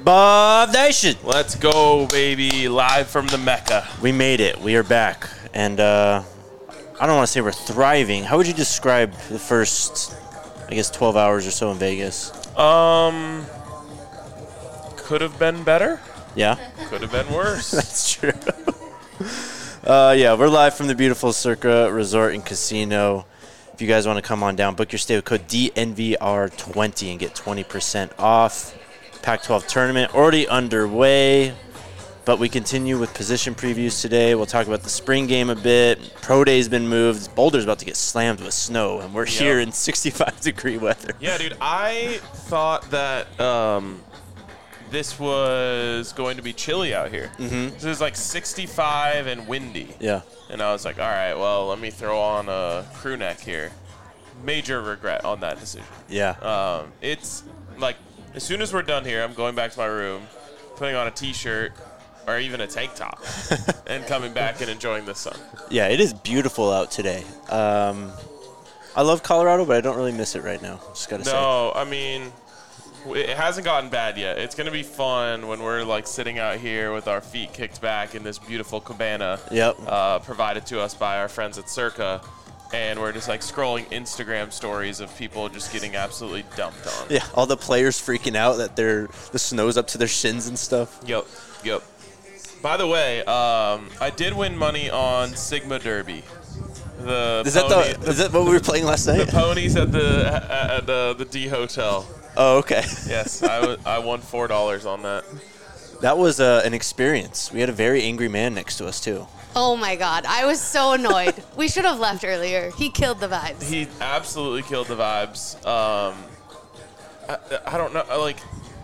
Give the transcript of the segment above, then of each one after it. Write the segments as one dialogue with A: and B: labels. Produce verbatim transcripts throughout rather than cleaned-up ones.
A: Bob Nation.
B: Let's go, baby. Live from the Mecca.
A: We made it. We are back. And uh, I don't want to say we're thriving. How would you describe the first, I guess, twelve hours or so in Vegas?
B: Um, could have been better.
A: Yeah?
B: Could have been worse.
A: That's true. uh, yeah, we're live from the beautiful Circa Resort and Casino. If you guys want to come on down, book your stay with code D N V R twenty and get twenty percent off. Pac twelve tournament already underway, but we continue with position previews today. We'll talk about the spring game a bit. Pro Day's been moved. Boulder's about to get slammed with snow, and we're yep. here in sixty-five degree weather.
B: Yeah, dude, I thought that um, this was going to be chilly out here.
A: Mm-hmm.
B: So it was like sixty-five and windy.
A: Yeah.
B: And I was like, all right, well, let me throw on a crew neck here. Major regret on that decision.
A: Yeah.
B: Um, it's like, as soon as we're done here, I'm going back to my room, putting on a T-shirt or even a tank top, and coming back and enjoying the sun.
A: Yeah, it is beautiful out today. Um, I love Colorado, but I don't really miss it right now. Just gotta
B: no,
A: say.
B: No, I mean, it hasn't gotten bad yet. It's gonna be fun when we're like sitting out here with our feet kicked back in this beautiful cabana.
A: Yep.
B: Uh, provided to us by our friends at Circa. And we're just like scrolling Instagram stories of people just getting absolutely dumped on.
A: Yeah, all the players freaking out that they're the snow's up to their shins and stuff.
B: Yep, yep. By the way, um, I did win money on Sigma Derby. The
A: is
B: pony,
A: that the,
B: the,
A: is that what we were playing last night?
B: The ponies at the at the, the D Hotel.
A: Oh, okay.
B: Yes, I, w- I won four dollars on that.
A: That was uh, an experience. We had a very angry man next to us too.
C: Oh my God, I was so annoyed. We should have left earlier. He killed the vibes.
B: He absolutely killed the vibes. Um, I, I don't know, like,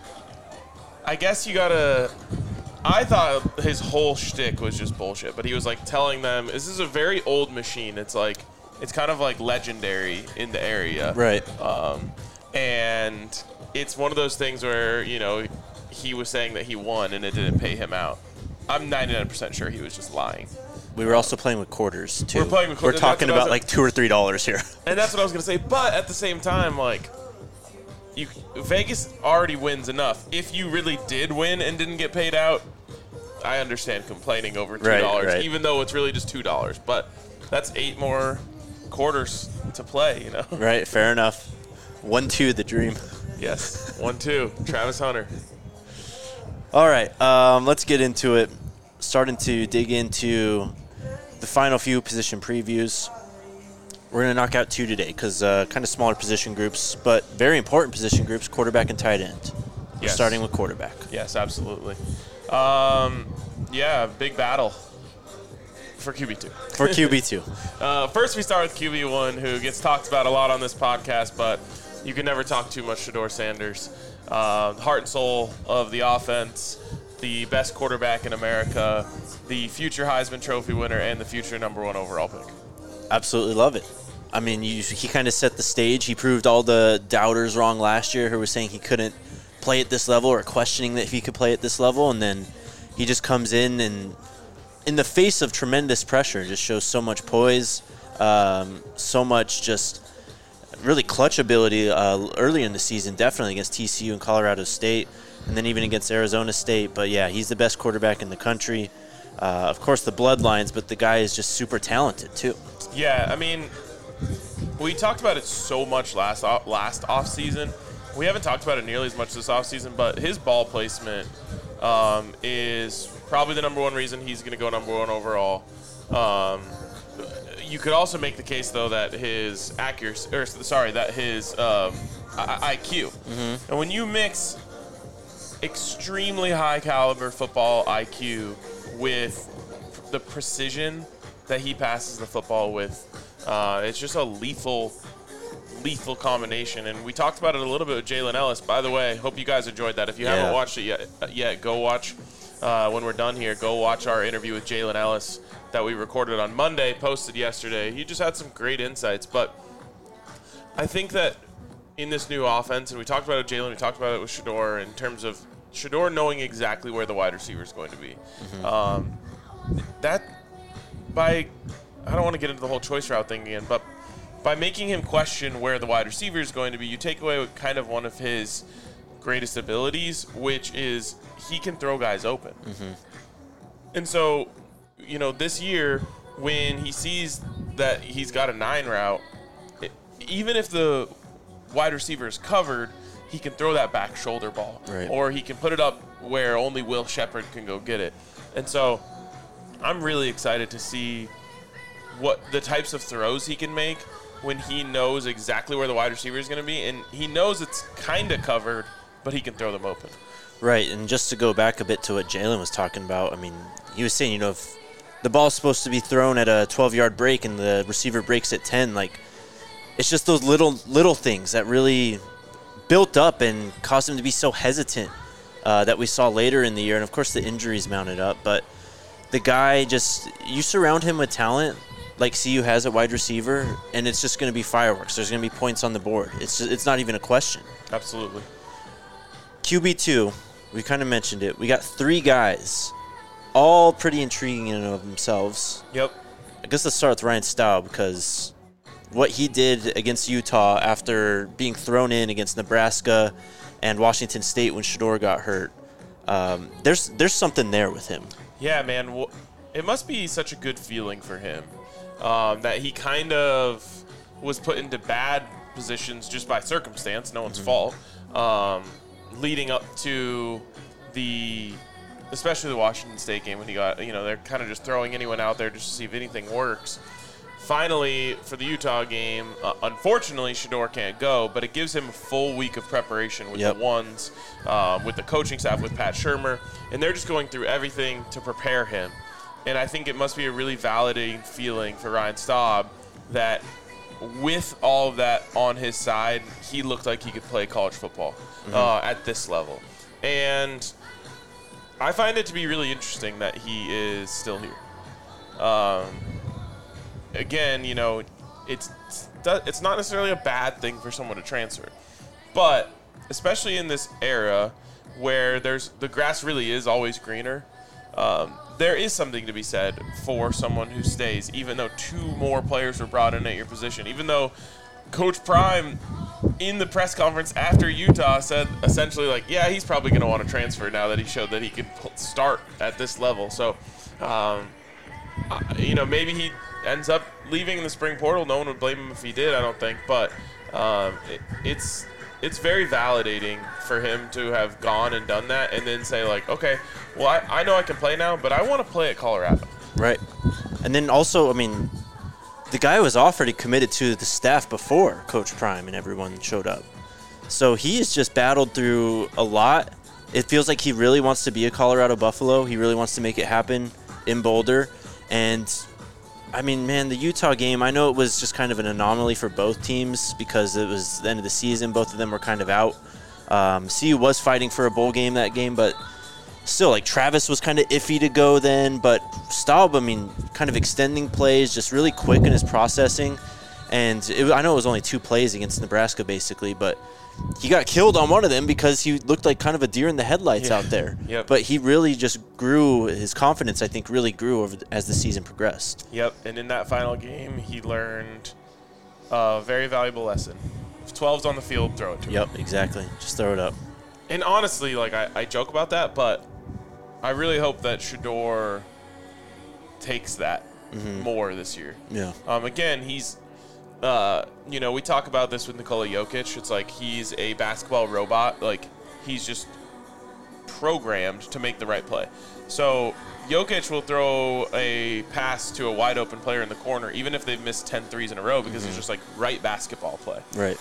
B: I guess you gotta, I thought his whole shtick was just bullshit, but he was like telling them, this is a very old machine. It's like, it's kind of like legendary in the area.
A: Right.
B: Um, and it's one of those things where, you know, he was saying that he won and it didn't pay him out. I'm ninety-nine percent sure he was just lying.
A: We were also playing with quarters, too.
B: We're playing with quarters.
A: We're talking about like two or three dollars here.
B: And that's what I was going to say. But at the same time, like, you, Vegas already wins enough. If you really did win and didn't get paid out, I understand complaining over two dollars,
A: right, right.
B: even though it's really just two dollars. But that's eight more quarters to play, you know?
A: Right, fair enough. one two, the dream.
B: Yes, one two, Travis Hunter.
A: All right, um, let's get into it. Starting to dig into the final few position previews. We're going to knock out two today because uh, kind of smaller position groups, but very important position groups, quarterback and tight end. We're
B: yes.
A: starting with quarterback.
B: Yes, absolutely. Um, yeah, big battle for Q B two.
A: For Q B two.
B: uh, first, we start with Q B one, who gets talked about a lot on this podcast, but you can never talk too much Shedeur Sanders. Uh, heart and soul of the offense, the best quarterback in America, the future Heisman Trophy winner, and the future number one overall pick.
A: Absolutely love it. I mean, you, he kind of set the stage. He proved all the doubters wrong last year who were saying he couldn't play at this level or questioning that he could play at this level, and then he just comes in and, in the face of tremendous pressure, just shows so much poise, um, so much just really clutch ability uh, early in the season, definitely against T C U and Colorado State, and then even against Arizona State. But, yeah, he's the best quarterback in the country. Uh, of course, the bloodlines, but the guy is just super talented, too.
B: Yeah, I mean, we talked about it so much last off, last offseason. We haven't talked about it nearly as much this offseason, but his ball placement um, is probably the number one reason he's going to go number one overall. Um You could also make the case, though, that his accuracy, or sorry, that his um, I- IQ.
A: Mm-hmm.
B: And when you mix extremely high caliber football I Q with the precision that he passes the football with, uh, it's just a lethal, lethal combination. And we talked about it a little bit with Jalen Ellis. By the way, hope you guys enjoyed that. If you
A: yeah.
B: haven't watched it yet, yet go watch. Uh, when we're done here, go watch our interview with Jalen Ellis that we recorded on Monday, posted yesterday. He just had some great insights. But I think that in this new offense, and we talked about it with Jalen, we talked about it with Shedeur, in terms of Shedeur knowing exactly where the wide receiver is going to be. Mm-hmm. Um, that, by, I don't want to get into the whole choice route thing again, but by making him question where the wide receiver is going to be, you take away kind of one of his greatest abilities, which is he can throw guys open.
A: Mm-hmm.
B: And so, you know, this year when he sees that he's got a nine route, it, even if the wide receiver is covered, he can throw that back shoulder ball.
A: Right.
B: Or he can put it up where only Will Shepherd can go get it. And so I'm really excited to see what the types of throws he can make when he knows exactly where the wide receiver is going to be. And he knows it's kind of covered, but he can throw them open.
A: Right, and just to go back a bit to what Jalen was talking about, I mean, he was saying, you know, if the ball's supposed to be thrown at a twelve-yard break and the receiver breaks at ten, like, it's just those little little things that really built up and caused him to be so hesitant uh, that we saw later in the year. And, of course, the injuries mounted up. But the guy just – you surround him with talent like C U has at wide receiver, and it's just going to be fireworks. There's going to be points on the board. It's just, it's not even a question.
B: Absolutely.
A: Q B two, we kind of mentioned it. We got three guys, all pretty intriguing in and of themselves.
B: Yep.
A: I guess let's start with Ryan Staub, because what he did against Utah after being thrown in against Nebraska and Washington State when Shedeur got hurt, um, there's there's something there with him.
B: Yeah, man. Well, it must be such a good feeling for him um, that he kind of was put into bad positions just by circumstance, no one's
A: Mm-hmm.
B: fault, um, leading up to the, especially the Washington State game when he got, you know, they're kind of just throwing anyone out there just to see if anything works. Finally, for the Utah game, uh, unfortunately, Shedeur can't go, but it gives him a full week of preparation with
A: Yep.
B: the ones, um, with the coaching staff, with Pat Shurmur, and they're just going through everything to prepare him. And I think it must be a really validating feeling for Ryan Staub that with all of that on his side, he looked like he could play college football mm-hmm. uh, at this level. And I find it to be really interesting that he is still here. Um, again, you know, it's it's not necessarily a bad thing for someone to transfer, but especially in this era where there's the grass really is always greener, um, there is something to be said for someone who stays, even though two more players were brought in at your position, even though Coach Prime in the press conference after Utah said essentially like, yeah, he's probably going to want to transfer now that he showed that he could start at this level. So, um, you know, maybe he ends up leaving in the spring portal. No one would blame him if he did, I don't think. But um, it, it's it's very validating for him to have gone and done that and then say, like, okay, well, I, I know I can play now, but I want to play at Colorado.
A: Right. And then also, I mean, the guy was offered, he committed to the staff before Coach Prime and everyone showed up. So he has just battled through a lot. It feels like he really wants to be a Colorado Buffalo. He really wants to make it happen in Boulder. And, I mean, man, the Utah game, I know it was just kind of an anomaly for both teams because it was the end of the season. Both of them were kind of out. Um, C U was fighting for a bowl game that game, but still, like, Travis was kind of iffy to go then. But Staub, I mean, kind of extending plays, just really quick in his processing. And it, I know it was only two plays against Nebraska, basically, but he got killed on one of them because he looked like kind of a deer in the headlights
B: yeah.
A: out there.
B: Yep.
A: But he really just grew, his confidence, I think, really grew over as the season progressed.
B: Yep, and in that final game, he learned a very valuable lesson. If twelve's on the field, throw it to him.
A: Yep, exactly. Just throw it up.
B: And honestly, like, I, I joke about that, but I really hope that Shedeur takes that
A: Mm-hmm.
B: more this year.
A: Yeah.
B: Um, again, he's, uh, you know, we talk about this with Nikola Jokic. It's like he's a basketball robot. Like, he's just programmed to make the right play. So Jokic will throw a pass to a wide open player in the corner, even if they've missed ten threes in a row, because mm-hmm. it's just like right basketball play.
A: Right.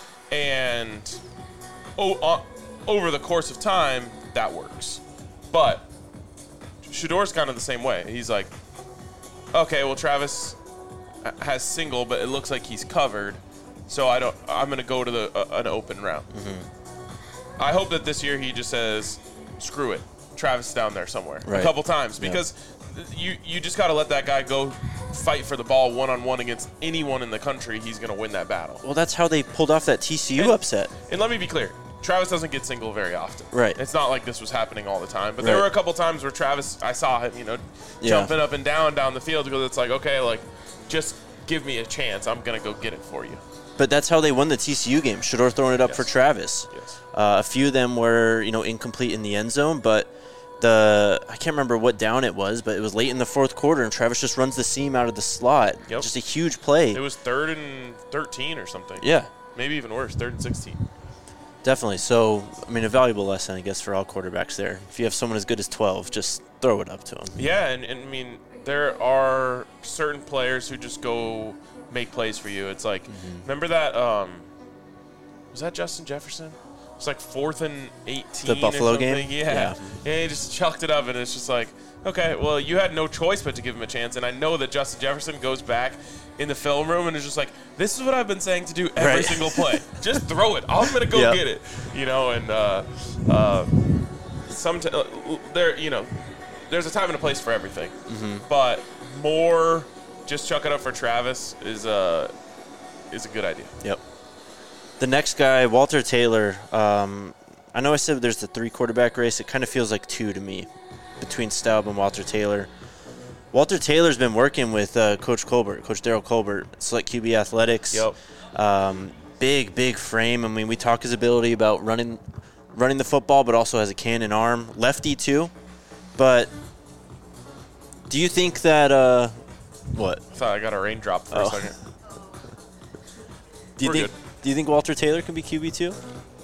B: And oh, uh, over the course of time, that works. But Shedeur's kind of the same way. He's like, okay, well, Travis has single, but it looks like he's covered, so I don't. I'm going to go to the uh, an open route. Mm-hmm. I hope that this year he just says, "Screw it, Travis is down there somewhere,"
A: right.
B: a couple times because yeah. you you just got to let that guy go fight for the ball one on one against anyone in the country. He's going to win that battle.
A: Well, that's how they pulled off that T C U
B: and,
A: upset.
B: And let me be clear. Travis doesn't get single very often.
A: Right.
B: It's not like this was happening all the time. But
A: right.
B: there were a couple times where Travis, I saw him, you know,
A: yeah.
B: jumping up and down down the field because it's like, okay, like, just give me a chance. I'm going to go get it for you.
A: But that's how they won the T C U game. Shedeur throwing it up
B: Yes.
A: for Travis.
B: Yes.
A: Uh, a few of them were, you know, incomplete in the end zone, but the I can't remember what down it was, but it was late in the fourth quarter, and Travis just runs the seam out of the slot.
B: Yep.
A: Just a huge play.
B: It was third and thirteen or something.
A: Yeah,
B: Maybe even worse, third and sixteen.
A: definitely. So, I mean, a valuable lesson, I guess, for all quarterbacks there. If you have someone as good as twelve, just throw it up to them.
B: Yeah, and, and I mean, there are certain players who just go make plays for you. It's like,
A: Mm-hmm.
B: remember that, um, was that Justin Jefferson? It's like fourth and eighteen.
A: The Buffalo
B: or something.
A: game?
B: Yeah.
A: Yeah.
B: yeah. He just chucked it up, and it's just like, okay, well, you had no choice but to give him a chance. And I know that Justin Jefferson goes back in the film room and is just like, this is what I've been saying to do every
A: Right.
B: single play. Just throw it. I'm going to go
A: Yeah.
B: get it. You know, and uh, uh, some t- uh, there, you know, there's a time and a place for everything.
A: Mm-hmm.
B: But more just chuck it up for Travis is a, is a good idea.
A: Yep. The next guy, Walter Taylor. Um, I know I said there's the three quarterback race. It kind of feels like two to me between Staub and Walter Taylor. Walter Taylor's been working with uh, Coach Colbert, Coach Daryl Colbert, Select Q B Athletics.
B: Yep.
A: Um, big, big frame. I mean, we talk his ability about running, running the football, but also has a cannon arm. Lefty too. But do you think that uh, what?
B: I thought I got a raindrop for
A: Oh.
B: a second.
A: Do you
B: We're
A: think?
B: good.
A: Do you think Walter Taylor can be Q B two?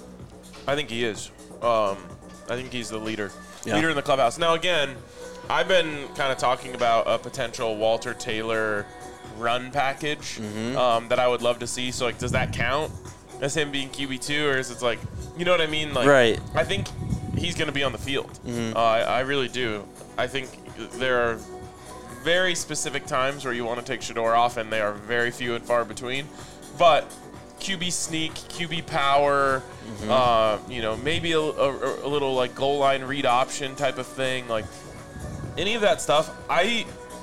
B: I think he is. Um, I think he's the leader.
A: Yeah.
B: Leader in the clubhouse. Now, again, I've been kind of talking about a potential Walter Taylor run package
A: Mm-hmm.
B: um, that I would love to see. So, like, does that count as him being Q B two, or is it like, you know what I mean? Like,
A: Right.
B: I think he's going to be on the field.
A: Mm-hmm.
B: Uh, I, I really do. I think there are very specific times where you want to take Shedeur off, and they are very few and far between. But Q B sneak, Q B power,
A: Mm-hmm.
B: uh, you know, maybe a, a, a little like goal line read option type of thing, like any of that stuff. I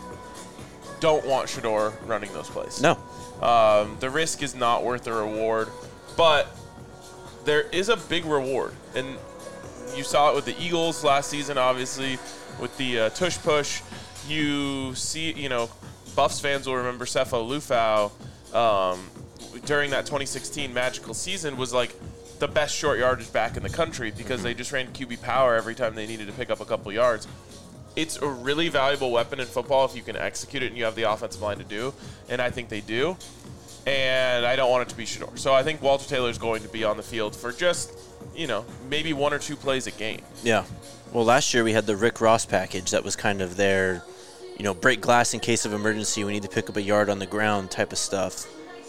B: don't want Shedeur running those plays.
A: No.
B: Um, the risk is not worth the reward, but there is a big reward, and you saw it with the Eagles last season, obviously, with the uh, tush push. You see, you know, Buffs fans will remember Sefo Lufau um, during that twenty sixteen magical season was like the best short yardage back in the country because they just ran Q B power every time they needed to pick up a couple yards. It's a really valuable weapon in football if you can execute it and you have the offensive line to do, and I think they do. And I don't want it to be Shedeur. So I think Walter Taylor is going to be on the field for just, you know, maybe one or two plays a game.
A: Yeah. Well, last year we had the Rick Ross package that was kind of their, you know, break glass in case of emergency. We need to pick up a yard on the ground type of stuff.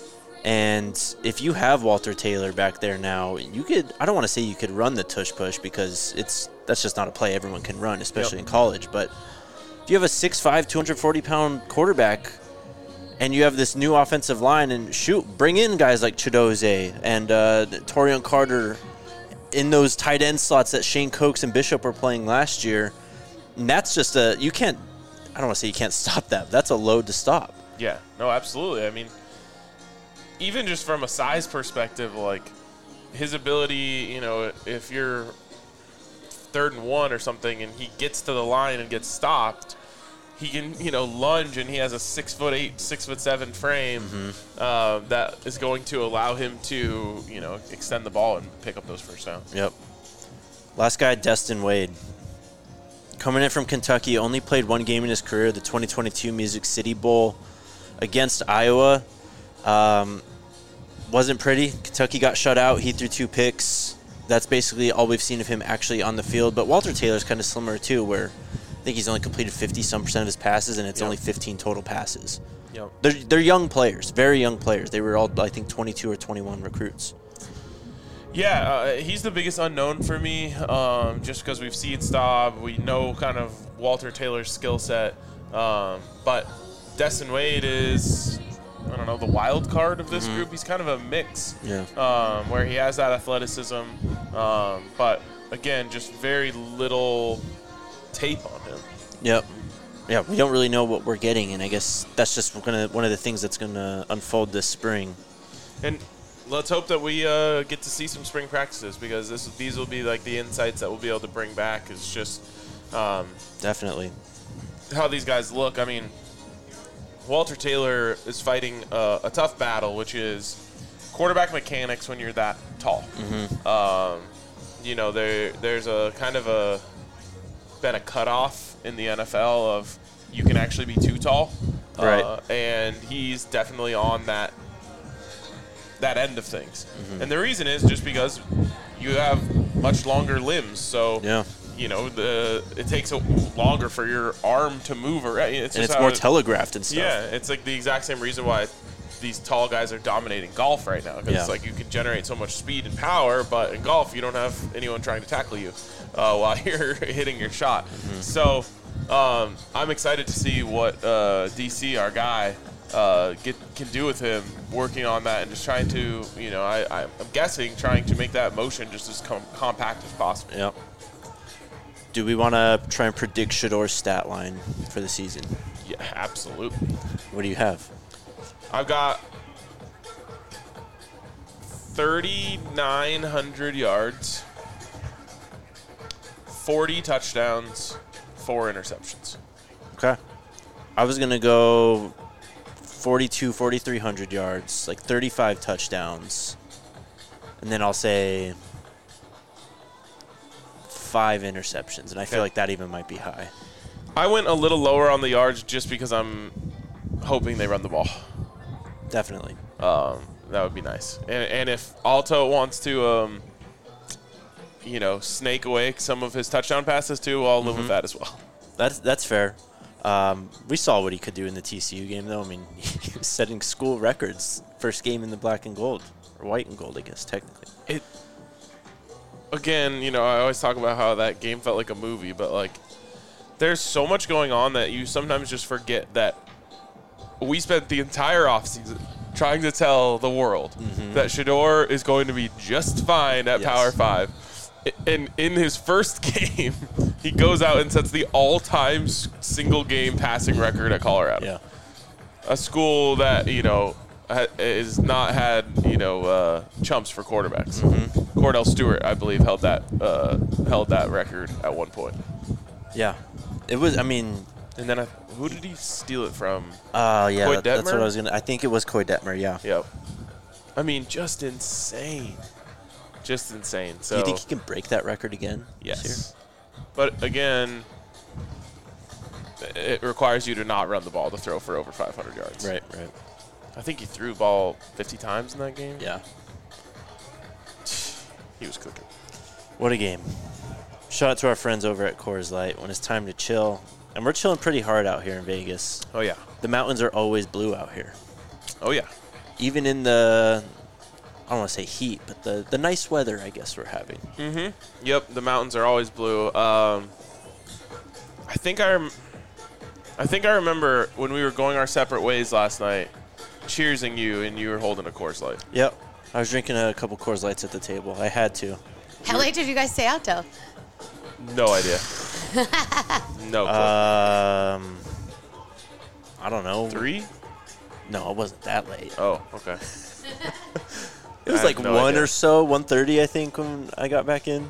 A: And if you have Walter Taylor back there now, you could, I don't want to say you could run the tush push because it's that's just not a play everyone can run, especially
B: Yep.
A: in college. But if you have a six five, two hundred forty pound quarterback and you have this new offensive line, and shoot, bring in guys like Chidoze and uh, Torian Carter in those tight end slots that Shane Cokes and Bishop were playing last year. And that's just a, you can't, I don't want to say you can't stop that. But that's a load to stop.
B: Yeah, no, absolutely. I mean, even just from a size perspective, like his ability, you know, if you're third and one or something and he gets to the line and gets stopped, he can, you know, lunge, and he has a six foot eight, six foot seven frame
A: Mm-hmm.
B: uh, that is going to allow him to, you know, extend the ball and pick up those first downs.
A: Yep. Last guy, Destin Wade. Coming in from Kentucky, only played one game in his career, the twenty twenty-two Music City Bowl against Iowa. Um, wasn't pretty. Kentucky got shut out. He threw two picks. That's basically all we've seen of him actually on the field. But Walter Taylor's kind of similar too, where I think he's only completed fifty-some percent of his passes, and it's
B: Yep.
A: only fifteen total passes.
B: Yep.
A: They're, they're young players, very young players. They were all, I think, twenty-two or twenty-one recruits.
B: Yeah, uh, he's the biggest unknown for me, um, just because we've seen Staub. We know kind of Walter Taylor's skill set. Um, but Destin Wade is, I don't know, the wild card of this group. He's kind of a mix,
A: Yeah.
B: um, where he has that athleticism. Um, but, again, just very little tape on him.
A: Yep. Yeah, we don't really know what we're getting, and I guess that's just gonna one of the things that's going to unfold this spring.
B: And let's hope that we uh, get to see some spring practices, because this these will be like the insights that we'll be able to bring back. Is just um,
A: Definitely.
B: how these guys look. I mean, Walter Taylor is fighting uh, a tough battle, which is quarterback mechanics when you're that tall.
A: Mm-hmm.
B: Um, you know, there there's a kind of a been a cutoff in the N F L of you can actually be too tall,
A: right?
B: Uh, and he's definitely on that that end of things.
A: Mm-hmm.
B: And the reason is just because you have much longer limbs, so
A: Yeah.
B: you know the it takes a longer for your arm to move around. It's
A: And
B: just
A: it's
B: how
A: more
B: it-
A: telegraphed and stuff.
B: Yeah, it's like the exact same reason why these tall guys are dominating golf right now. Because
A: Yeah.
B: it's like you can generate so much speed and power, but in golf you don't have anyone trying to tackle you uh, while you're hitting your shot.
A: Mm-hmm.
B: So um, I'm excited to see what uh, D C, our guy, uh, get can do with him, working on that and just trying to, you know, I, I'm guessing trying to make that motion just as com- compact as possible.
A: Yep. Do we want to try and predict Shador's stat line for the season?
B: Yeah, absolutely.
A: What do you have?
B: I've got thirty-nine hundred yards, forty touchdowns, four interceptions.
A: Okay. I was going to go forty-two, forty-three hundred yards, like thirty-five touchdowns. And then I'll say five interceptions. And I feel
B: Okay.
A: like that even might be high.
B: I went a little lower on the yards just because I'm hoping they run the ball.
A: Definitely.
B: Um, that would be nice. And, and if Alto wants to, um, you know, snake away some of his touchdown passes too, I'll live with that as well.
A: That's that's fair. Um, we saw what he could do in the T C U game, though. I mean, he was setting school records. First game in the black and gold. Or white and gold, I guess, technically.
B: It again, you know, I always talk about how that game felt like a movie, but like there's so much going on that you sometimes just forget that we spent the entire offseason trying to tell the world
A: Mm-hmm.
B: that Shador is going to be just fine at
A: Yes.
B: Power Five. I- And in his first game, he goes out and sets the all-time s- single-game passing record at Colorado.
A: Yeah.
B: A school that, you know, ha- is not had, you know, uh, chumps for quarterbacks.
A: Mm-hmm.
B: Cordell Stewart, I believe, held that uh, held that record at one point.
A: Yeah. It was, I mean,
B: And then I, who did he steal it from?
A: uh, yeah,
B: Coy
A: that- that's what
B: Detmer?
A: I was going to, I think it was Coy Detmer, yeah.
B: Yep. I mean, just insane. Just insane. So
A: Do you think he can break that record again? this year?
B: yes. But again, it requires you to not run the ball to throw for over five hundred yards.
A: Right, right.
B: I think he threw the ball fifty times in that game.
A: Yeah.
B: He was cooking.
A: What a game. Shout out to our friends over at Coors Light when it's time to chill. And we're chilling pretty hard out here in Vegas.
B: Oh, yeah.
A: The mountains are always blue out here.
B: Oh, yeah.
A: Even in the, I don't want to say heat, but the, the nice weather, I guess, we're having.
B: Mm-hmm. Yep, the mountains are always blue. Um, I think I, rem- I think I remember when we were going our separate ways last night, cheersing you, and you were holding a Coors Light.
A: Yep. I was drinking a couple Coors Lights at the table. I had to.
C: How late did you guys stay out till?
B: No idea. no clue.
A: Um, I don't know.
B: Three?
A: No, it wasn't that late.
B: Oh, okay.
A: It was
B: I
A: like
B: have no
A: one
B: idea.
A: or so, one thirty, I think, when I got back in.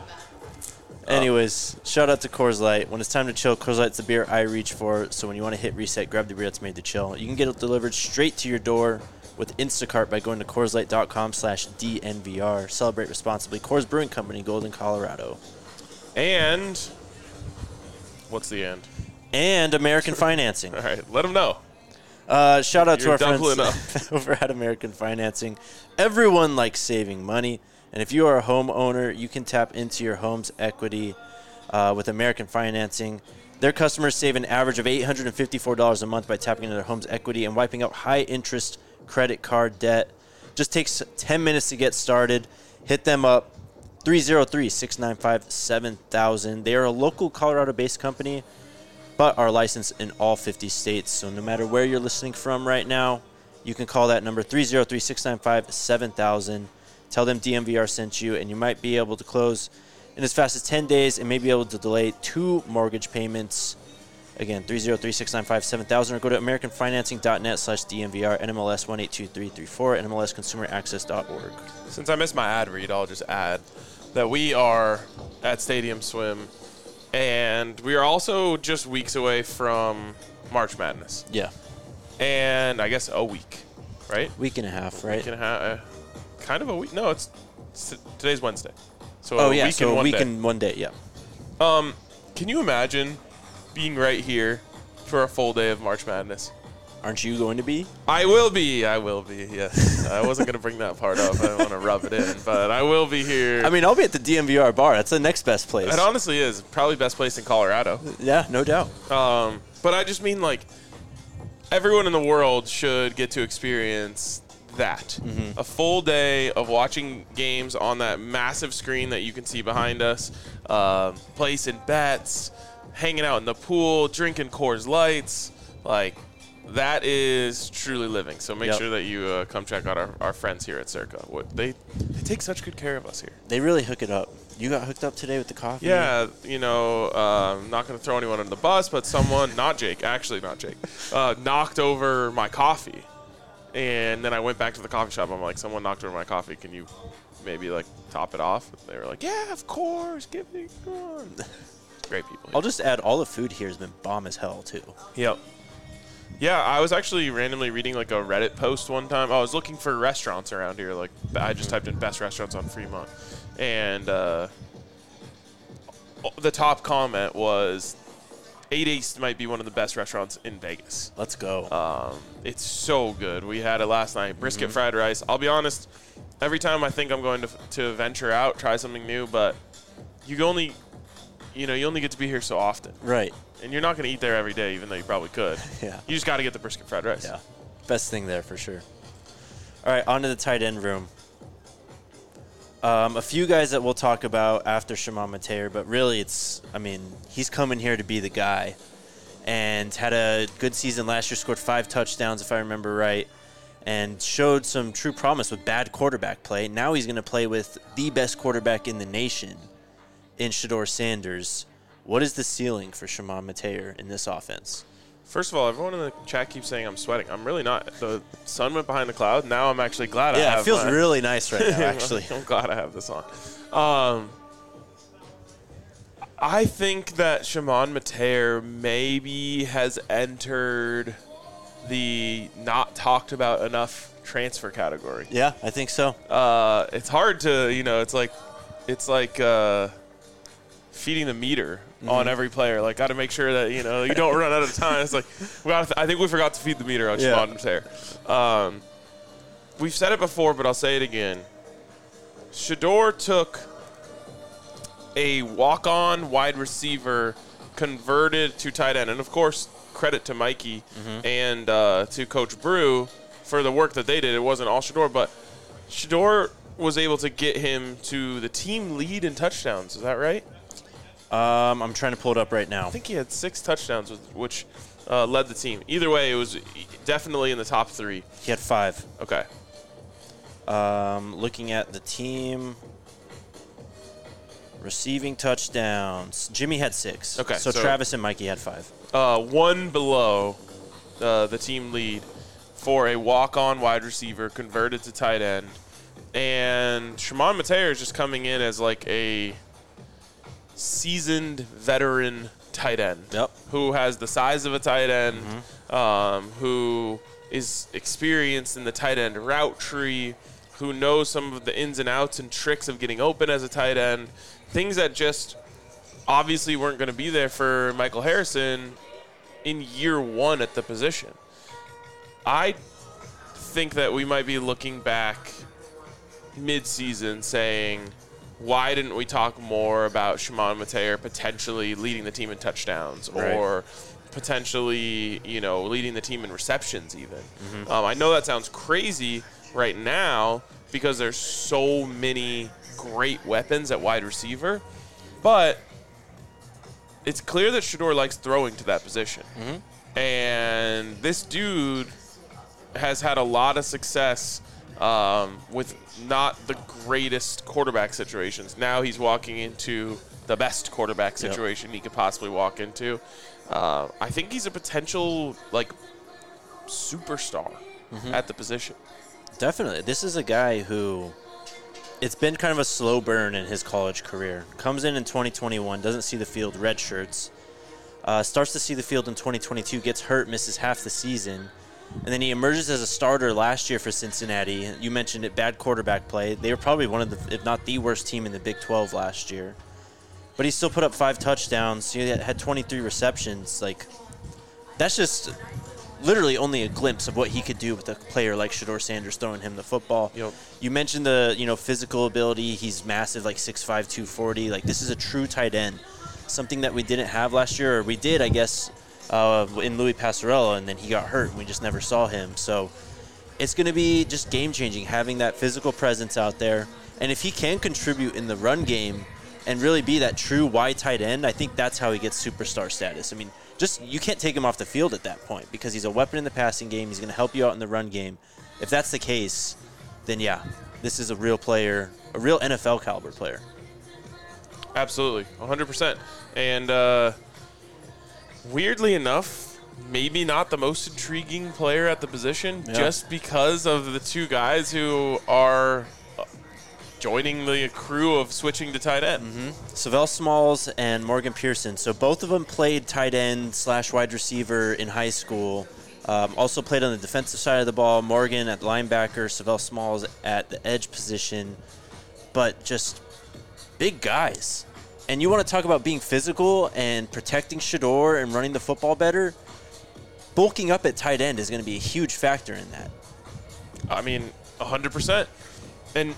A: Anyways, shout out to Coors Light. When it's time to chill, Coors Light's the beer I reach for. So when you want to hit reset, grab the beer that's made to chill. You can get it delivered straight to your door with Instacart by going to CoorsLight.com slash DNVR. Celebrate responsibly. Coors Brewing Company, Golden, Colorado.
B: And what's the end?
A: And American Financing.
B: All right, let them know.
A: Uh, shout out
B: You're
A: to our
B: doubling
A: friends over at American Financing. Everyone likes saving money, and if you are a homeowner, you can tap into your home's equity uh, with American Financing. Their customers save an average of eight hundred fifty-four dollars a month by tapping into their home's equity and wiping out high-interest credit card debt. Just takes ten minutes to get started. Hit them up, three oh three, six nine five, seven thousand. They are a local Colorado-based company, but are licensed in all fifty states. So no matter where you're listening from right now, you can call that number three oh three, six nine five, seven thousand. Tell them D M V R sent you, and you might be able to close in as fast as ten days and may be able to delay two mortgage payments. Again, three oh three, six nine five, seven thousand, or go to americanfinancing.net slash DMVR, N M L S one eight two three three four, N M L S consumer access dot org.
B: Since I missed my ad read, I'll just add that we are at Stadium Swim, and we are also just weeks away from March Madness.
A: Yeah,
B: And I guess a week, right?
A: week and a half, right?
B: Week and a half, uh, kind of a week. No, it's, it's today's Wednesday. So
A: Oh,
B: a
A: yeah,
B: week
A: so
B: and
A: a
B: one
A: week
B: day.
A: and one day, yeah.
B: Um, can you imagine being right here for a full day of March Madness?
A: Aren't you going to be?
B: I will be. I will be. Yes. I wasn't going to bring that part up. I don't want to rub it in, but I will be here.
A: I mean, I'll be at the D M V R bar. That's the next best place.
B: It honestly is probably best place in Colorado.
A: Yeah, no doubt.
B: Um, but I just mean like everyone in the world should get to experience that.
A: Mm-hmm.
B: A full day of watching games on that massive screen that you can see behind us, um, placing bets, hanging out in the pool, drinking Coors Lights, like. That is truly living. So make
A: Yep.
B: sure that you uh, come check out our, our friends here at Circa. What they they take such good care of us here.
A: They really hook it up. You got hooked up today with the coffee?
B: Yeah, you know, uh, I'm not going to throw anyone under the bus, but someone, not Jake, actually not Jake, uh, knocked over my coffee. And then I went back to the coffee shop. I'm like, someone knocked over my coffee. Can you maybe, like, top it off? And they were like, yeah, of course. Give me one. Great people.
A: I'll just add all the food here has been bomb as hell, too.
B: Yep. Yeah, I was actually randomly reading like a Reddit post one time. I was looking for restaurants around here. Like I just typed in best restaurants on Fremont, and uh, the top comment was eight East might be one of the best restaurants in Vegas.
A: Let's go.
B: Um, it's so good. We had it last night. Brisket fried rice. I'll be honest. Every time I think I'm going to to venture out, try something new, but you only, you know, you only get to be here so often.
A: Right.
B: And you're not going to eat there every day, even though you probably could.
A: Yeah.
B: You just got to get the brisket fried rice.
A: Yeah. Best thing there for sure. All right, on to the tight end room. Um, a few guys that we'll talk about after Shimon Mateer, but really it's, I mean, he's coming here to be the guy. And had a good season last year, scored five touchdowns, if I remember right, and showed some true promise with bad quarterback play. Now he's going to play with the best quarterback in the nation in Shedeur Sanders. What is the ceiling for Shimon Mateer in this offense?
B: First of all, everyone in the chat keeps saying I'm sweating. I'm really not. The sun went behind the cloud. Now I'm actually glad I have
A: Yeah, it feels
B: my,
A: really nice right now, actually.
B: I'm glad I have this on. Um, I think that Shimon Mateer maybe has entered the not talked about enough transfer category.
A: Yeah, I think so.
B: Uh, it's hard to, you know, it's like, it's like uh, feeding the meter mm-hmm. on every player. Like, got to make sure that, you know, you don't run out of time. It's like, we gotta th- I think we forgot to feed the meter on
A: Yeah.
B: Shimon Mateer. Um, we've said it before, but I'll say it again. Shedeur took a walk-on wide receiver, converted to tight end, and of course, credit to Mikey mm-hmm. and uh, to Coach Brew for the work that they did. It wasn't all Shedeur, but Shedeur was able to get him to the team lead in touchdowns. Is that right?
A: Um, I'm trying to pull it up right now.
B: I think he had six touchdowns, which uh, led the team. Either way, it was definitely in the top three.
A: He had five.
B: Okay.
A: Um, looking at the team, receiving touchdowns. Jimmy had six.
B: Okay,
A: So,
B: so-
A: Travis and Mikey had five.
B: Uh, one below uh, the team lead for a walk-on wide receiver converted to tight end. And Shimon Mateer is just coming in as like a seasoned veteran tight end
A: Yep.
B: who has the size of a tight end,
A: Mm-hmm.
B: um, who is experienced in the tight end route tree, who knows some of the ins and outs and tricks of getting open as a tight end, things that just obviously weren't going to be there for Michael Harrison in year one at the position. I think that we might be looking back mid-season saying, why didn't we talk more about Shimon Mateer potentially leading the team in touchdowns
A: Right.
B: or potentially, you know, leading the team in receptions even? Mm-hmm. Um, I know that sounds crazy right now because there's so many great weapons at wide receiver, but it's clear that Shedeur likes throwing to that position. Mm-hmm. And this dude has had a lot of success um, with not the greatest quarterback situations. Now he's walking into the best quarterback situation yep. he could possibly walk into. Uh, I think he's a potential, like, superstar mm-hmm. at the position.
A: Definitely. This is a guy who, it's been kind of a slow burn in his college career. Comes in in twenty twenty-one, doesn't see the field, red shirts. Uh, starts to see the field in twenty twenty-two, gets hurt, misses half the season. And then he emerges as a starter last year for Cincinnati. You mentioned it, bad quarterback play. They were probably one of the, if not the worst team in the Big twelve last year. But he still put up five touchdowns. He had twenty-three receptions. Like, that's just literally only a glimpse of what he could do with a player like Shedeur Sanders throwing him the football.
B: Yep.
A: You mentioned the, you know, physical ability. He's massive, like six five, two forty. Like, this is a true tight end. Something that we didn't have last year, or we did, I guess, uh, in Louis Passarella, and then he got hurt, and we just never saw him. So it's going to be just game-changing, having that physical presence out there. And if he can contribute in the run game and really be that true wide tight end, I think that's how he gets superstar status. I mean, just you can't take him off the field at that point because he's a weapon in the passing game. He's going to help you out in the run game. If that's the case, then yeah, this is a real player, a real N F L caliber player.
B: Absolutely, one hundred percent. And uh, weirdly enough, maybe not the most intriguing player at the position,
A: Yeah.
B: just because of the two guys who are joining the crew of switching to tight end.
A: Mm-hmm. Savell Smalls and Morgan Pearson. So both of them played tight end slash wide receiver in high school. Um, also played on the defensive side of the ball. Morgan at linebacker, Savell Smalls at the edge position. But just big guys. And you want to talk about being physical and protecting Shedeur and running the football better? Bulking up at tight end is going to be a huge factor in that.
B: I mean, one hundred percent. And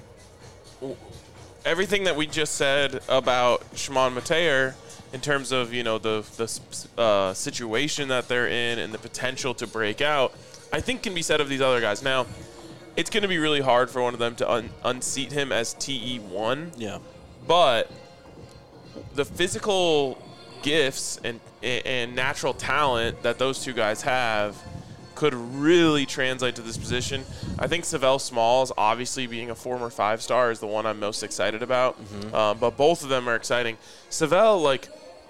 B: everything that we just said about Shimon Mateer in terms of, you know, the the uh, situation that they're in and the potential to break out, I think can be said of these other guys. Now, it's going to be really hard for one of them to un- unseat him as T E one.
A: Yeah.
B: But the physical gifts and and natural talent that those two guys have could really translate to this position. I think Savell Smalls, obviously being a former five-star, is the one I'm most excited about. Mm-hmm. Um, but both of them are exciting. Savell, like,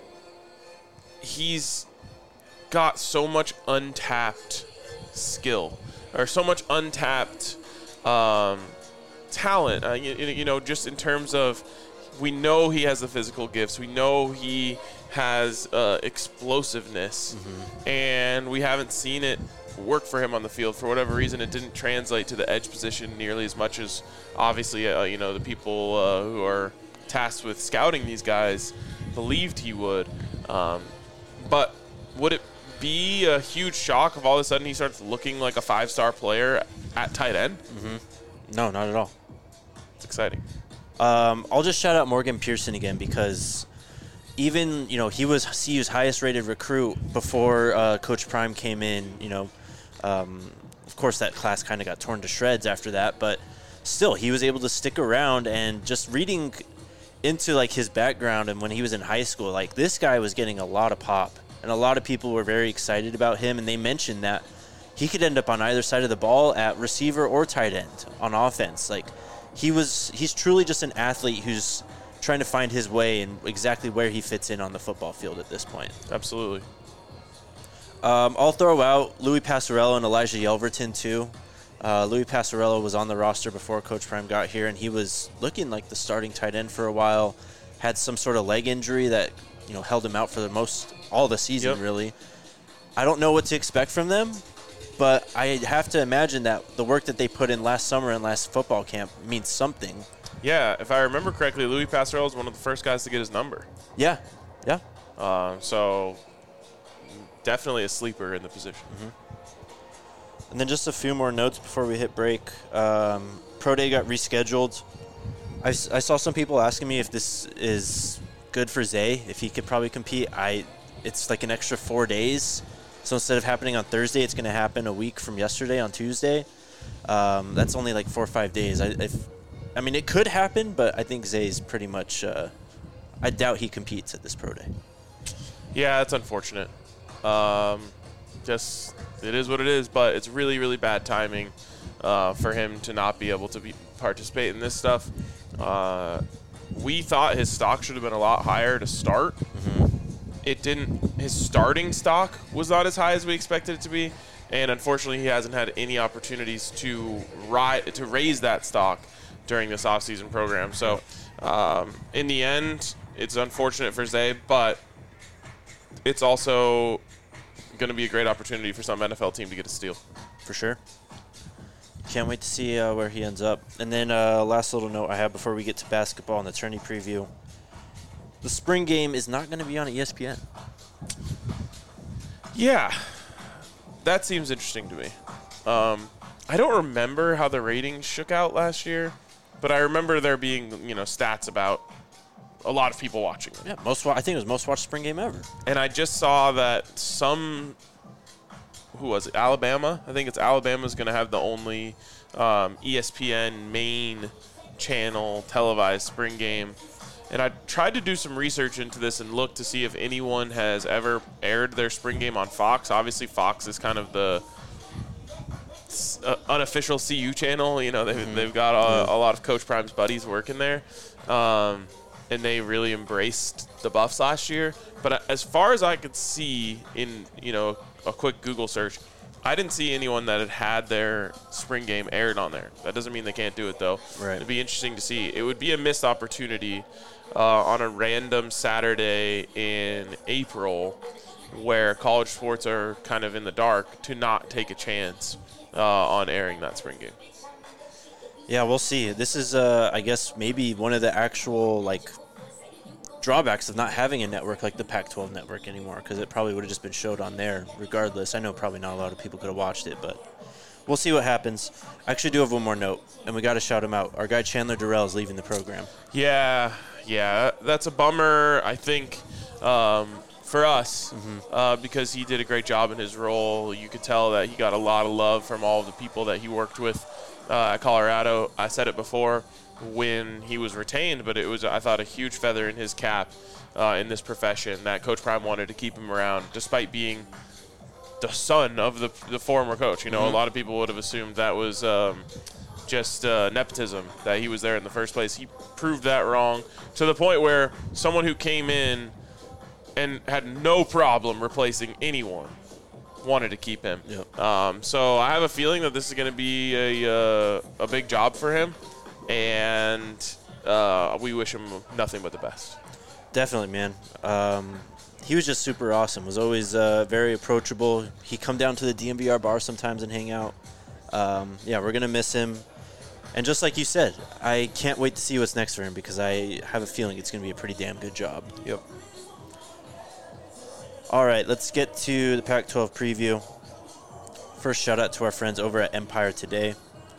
B: he's got so much untapped skill, or so much untapped um, talent. Uh, you, you know, just in terms of, we know he has the physical gifts. We know he has uh, explosiveness, mm-hmm. and we haven't seen it work for him on the field. For whatever reason, it didn't translate to the edge position nearly as much as, obviously, uh, you know, the people uh, who are tasked with scouting these guys believed he would. Um, but would it be a huge shock if all of a sudden he starts looking like a five-star player at tight end?
A: Mm-hmm. No, not at all.
B: It's exciting.
A: Um, I'll just shout out Morgan Pearson again because even, you know, he was C U's highest rated recruit before uh, Coach Prime came in. You know, um, of course that class kind of got torn to shreds after that, but still he was able to stick around. And just reading into like his background and when he was in high school, like this guy was getting a lot of pop and a lot of people were very excited about him. And they mentioned that he could end up on either side of the ball at receiver or tight end on offense. Like he was, he's truly just an athlete who's trying to find his way and exactly where he fits in on the football field at this point.
B: Absolutely.
A: Um, I'll throw out Louis Passarella and Elijah Yelverton too. Uh, Louis Passarella was on the roster before Coach Prime got here, and he was looking like the starting tight end for a while. Had some sort of leg injury that, you know, held him out for the most all the season.
B: Yep.
A: Really. I don't know what to expect from them, but I have to imagine that the work that they put in last summer and last football camp means something.
B: Yeah, if I remember correctly, Louis Passarella was one of the first guys to get his number.
A: Yeah, yeah.
B: Uh, so definitely a sleeper in the position.
A: Mm-hmm. And then just a few more notes before we hit break. Um, Pro Day got rescheduled. I, I saw some people asking me if this is good for Zay, if he could probably compete. I, it's like an extra four days. So instead of happening on Thursday, it's going to happen a week from yesterday on Tuesday. Um, that's only like four or five days. I, if, I mean, it could happen, but I think Zay's pretty much uh, – I doubt he competes at this Pro Day.
B: Yeah, that's unfortunate. Um, just it is what it is, but it's really, really bad timing uh, for him to not be able to be participate in this stuff. Uh, we thought his stock should have been a lot higher to start.
A: Mm-hmm.
B: It didn't. His starting stock was not as high as we expected it to be, and unfortunately, he hasn't had any opportunities to ri- to raise that stock during this offseason program. So, um, in the end, it's unfortunate for Zay, but it's also going to be a great opportunity for some N F L team to get a steal.
A: For sure. Can't wait to see uh, where he ends up. And then uh, last little note I have before we get to basketball and the tourney preview. The spring game is not going to be on E S P N.
B: Yeah, that seems interesting to me. Um, I don't remember how the ratings shook out last year, but I remember there being, you know, stats about a lot of people watching it.
A: Yeah, most. Wa- I think it was most watched spring game ever.
B: And I just saw that some, who was it? Alabama. I think it's Alabama's going to have the only um, E S P N main channel televised spring game. And I tried to do some research into this and look to see if anyone has ever aired their spring game on Fox. Obviously, Fox is kind of the uh, unofficial C U channel. You know, they've, mm-hmm. they've got a, yeah. a lot of Coach Prime's buddies working there. Um, and they really embraced the Buffs last year. But as far as I could see in, you know, a quick Google search, I didn't see anyone that had had their spring game aired on there. That doesn't mean they can't do it, though.
A: Right.
B: It'd be interesting to see. It would be a missed opportunity uh, on a random Saturday in April where college sports are kind of in the dark to not take a chance uh, on airing that spring game.
A: Yeah, we'll see. This is, uh, I guess, maybe one of the actual, like, drawbacks of not having a network like the Pac twelve network anymore, because it probably would have just been showed on there regardless. I know probably not a lot of people could have watched it, but we'll see what happens. I actually do have one more note, and we got to shout him out. Our guy Chandler Durrell is leaving the program.
B: Yeah, yeah, that's a bummer, I think, um, for us, mm-hmm. uh, because he did a great job in his role. You could tell that he got a lot of love from all of the people that he worked with uh, at Colorado. I said it before when he was retained, but it was, I thought, a huge feather in his cap uh, in this profession that Coach Prime wanted to keep him around, despite being the son of the the former coach. You know, mm-hmm. a lot of people would have assumed that was um, just uh, nepotism, that he was there in the first place. He proved that wrong to the point where someone who came in and had no problem replacing anyone wanted to keep him.
A: Yep.
B: Um, so I have a feeling that this is going to be a uh, a big job for him. And uh, we wish him nothing but the best.
A: Definitely, man. Um, he was just super awesome. Was always uh, very approachable. He'd come down to the D M V R bar sometimes and hang out. Um, yeah, we're going to miss him. And just like you said, I can't wait to see what's next for him because I have a feeling it's going to be a pretty damn good job.
B: Yep.
A: All right, let's get to the Pac twelve preview. First, shout out to our friends over at Empire Today.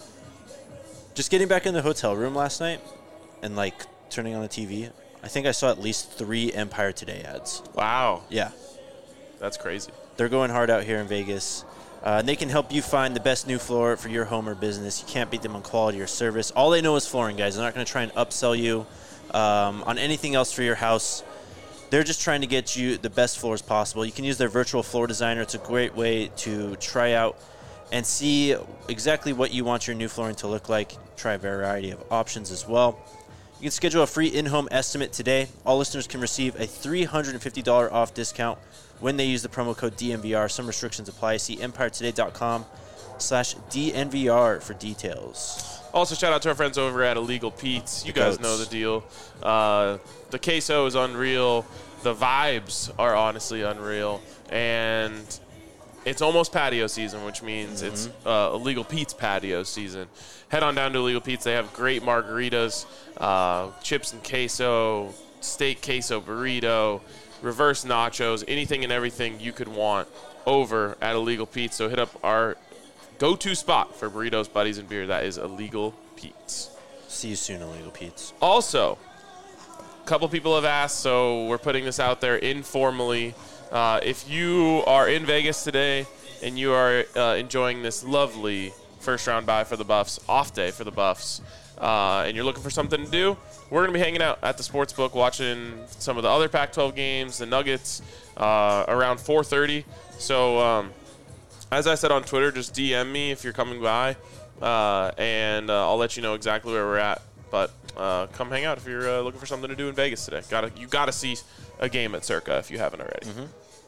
A: Just getting back in the hotel room last night and, like, turning on the T V, I think I saw at least three Empire Today ads.
B: Wow.
A: Yeah.
B: That's crazy.
A: They're going hard out here in Vegas. Uh, and they can help you find the best new floor for your home or business. You can't beat them on quality or service. All they know is flooring, guys. They're not going to try and upsell you um, on anything else for your house. They're just trying to get you the best floors possible. You can use their virtual floor designer. It's a great way to try out and see exactly what you want your new flooring to look like. Try a variety of options as well. You can schedule a free in-home estimate today. All listeners can receive a three hundred fifty dollars off discount when they use the promo code D N V R. Some restrictions apply. See empiretoday.com slash DNVR for details.
B: Also, shout out to our friends over at Illegal Pete's. You
A: The
B: guys
A: goats.
B: know the deal. Uh, the queso is unreal. The vibes are honestly unreal. And it's almost patio season, which means mm-hmm. it's uh, Illegal Pete's patio season. Head on down to Illegal Pete's. They have great margaritas, uh, chips and queso, steak queso burrito, reverse nachos, anything and everything you could want over at Illegal Pete's. So hit up our go-to spot for burritos, buddies, and beer. That is Illegal Pete's.
A: See you soon, Illegal Pete's.
B: Also, a couple people have asked, so we're putting this out there informally. Uh, if you are in Vegas today and you are uh, enjoying this lovely first-round bye for the Buffs, off day for the Buffs, uh, and you're looking for something to do, we're going to be hanging out at the Sportsbook watching some of the other Pac twelve games, the Nuggets, uh, around four thirty. So, um, as I said on Twitter, just D M me if you're coming by, uh, and uh, I'll let you know exactly where we're at. But uh, come hang out if you're uh, looking for something to do in Vegas today. Gotta, you got to see a game at Circa if you haven't already.
A: Mm-hmm.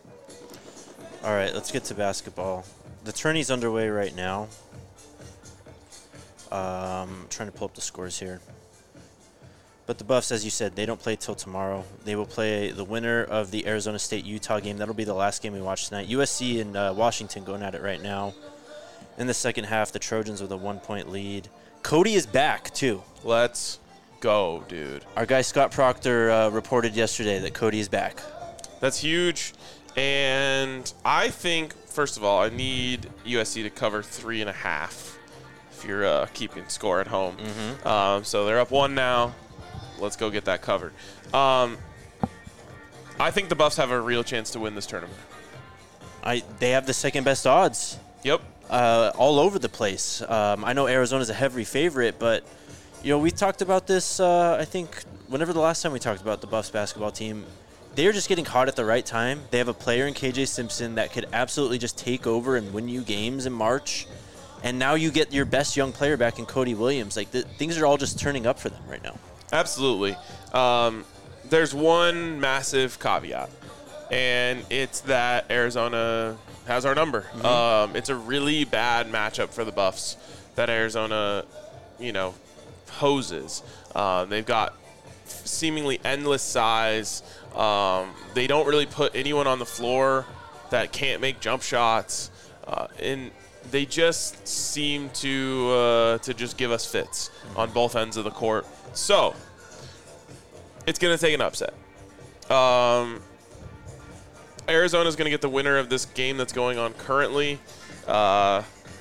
A: All right, let's get to basketball. The tourney's underway right now. Um, trying to pull up the scores here. But the Buffs, as you said, they don't play till tomorrow. They will play the winner of the Arizona State-Utah game. That'll be the last game we watch tonight. U S C and uh, Washington going at it right now. In the second half, the Trojans with a one-point lead. Cody is back, too.
B: Let's go, dude.
A: Our guy Scott Proctor uh, reported yesterday that Cody is back.
B: That's huge. And I think, first of all, I need U S C to cover three and a half if you're uh, keeping score at home.
A: Mm-hmm.
B: Um, so they're up one now. Let's go get that covered. Um, I think the Buffs have a real chance to win this tournament.
A: I They have the second-best odds.
B: Yep.
A: Uh, all over the place. Um, I know Arizona's a heavy favorite, but you know we talked about this. Uh, I think whenever the last time we talked about the Buffs basketball team, they're just getting hot at the right time. They have a player in K J Simpson that could absolutely just take over and win you games in March, and now you get your best young player back in Cody Williams. Like the, things are all just turning up for them right now.
B: Absolutely. Um, there's one massive caveat, and it's that Arizona has our number.
A: Mm-hmm.
B: Um, it's a really bad matchup for the Buffs that Arizona, you know, poses. Uh, they've got seemingly endless size. Um, they don't really put anyone on the floor that can't make jump shots, uh, and they just seem to uh, to just give us fits on both ends of the court. So it's going to take an upset. Um, Arizona's going to get the winner of this game that's going on currently. Uh,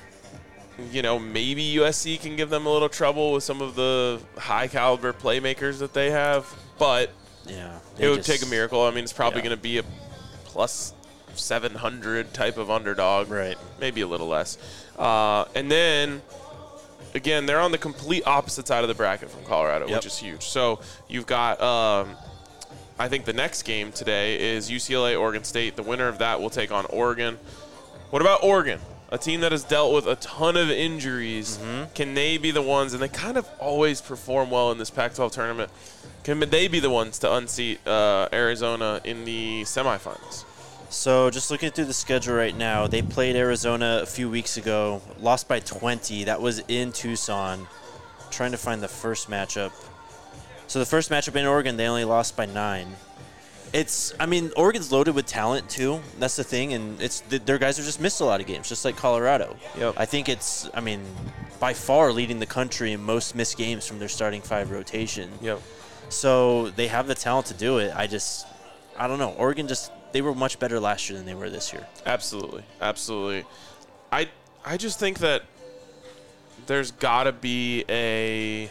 B: you know, maybe U S C can give them a little trouble with some of the high-caliber playmakers that they have, but
A: Yeah,
B: it would take a miracle. I mean, it's probably
A: yeah.
B: going to be a plus seven hundred type of underdog.
A: Right.
B: Maybe a little less. Uh, and then, again, they're on the complete opposite side of the bracket from Colorado,
A: Yep.
B: which is huge. So you've got, um, I think the next game today is U C L A, Oregon State. The winner of that will take on Oregon. What about Oregon? A team that has dealt with a ton of injuries.
A: Mm-hmm.
B: Can they be the ones, and they kind of always perform well in this Pac twelve tournament, can they be the ones to unseat uh, Arizona in the semifinals?
A: So just looking through the schedule right now, they played Arizona a few weeks ago, lost by twenty. That was in Tucson. Trying to find the first matchup. So the first matchup in Oregon, they only lost by nine. It's, I mean, Oregon's loaded with talent too. That's the thing, and it's their guys have just missed a lot of games, just like Colorado.
B: Yep.
A: I think it's, I mean, by far leading the country in most missed games from their starting five rotation.
B: Yep.
A: So they have the talent to do it. I just, I don't know. Oregon just, they were much better last year than they were this year.
B: Absolutely, absolutely. I I just think that there's got to be a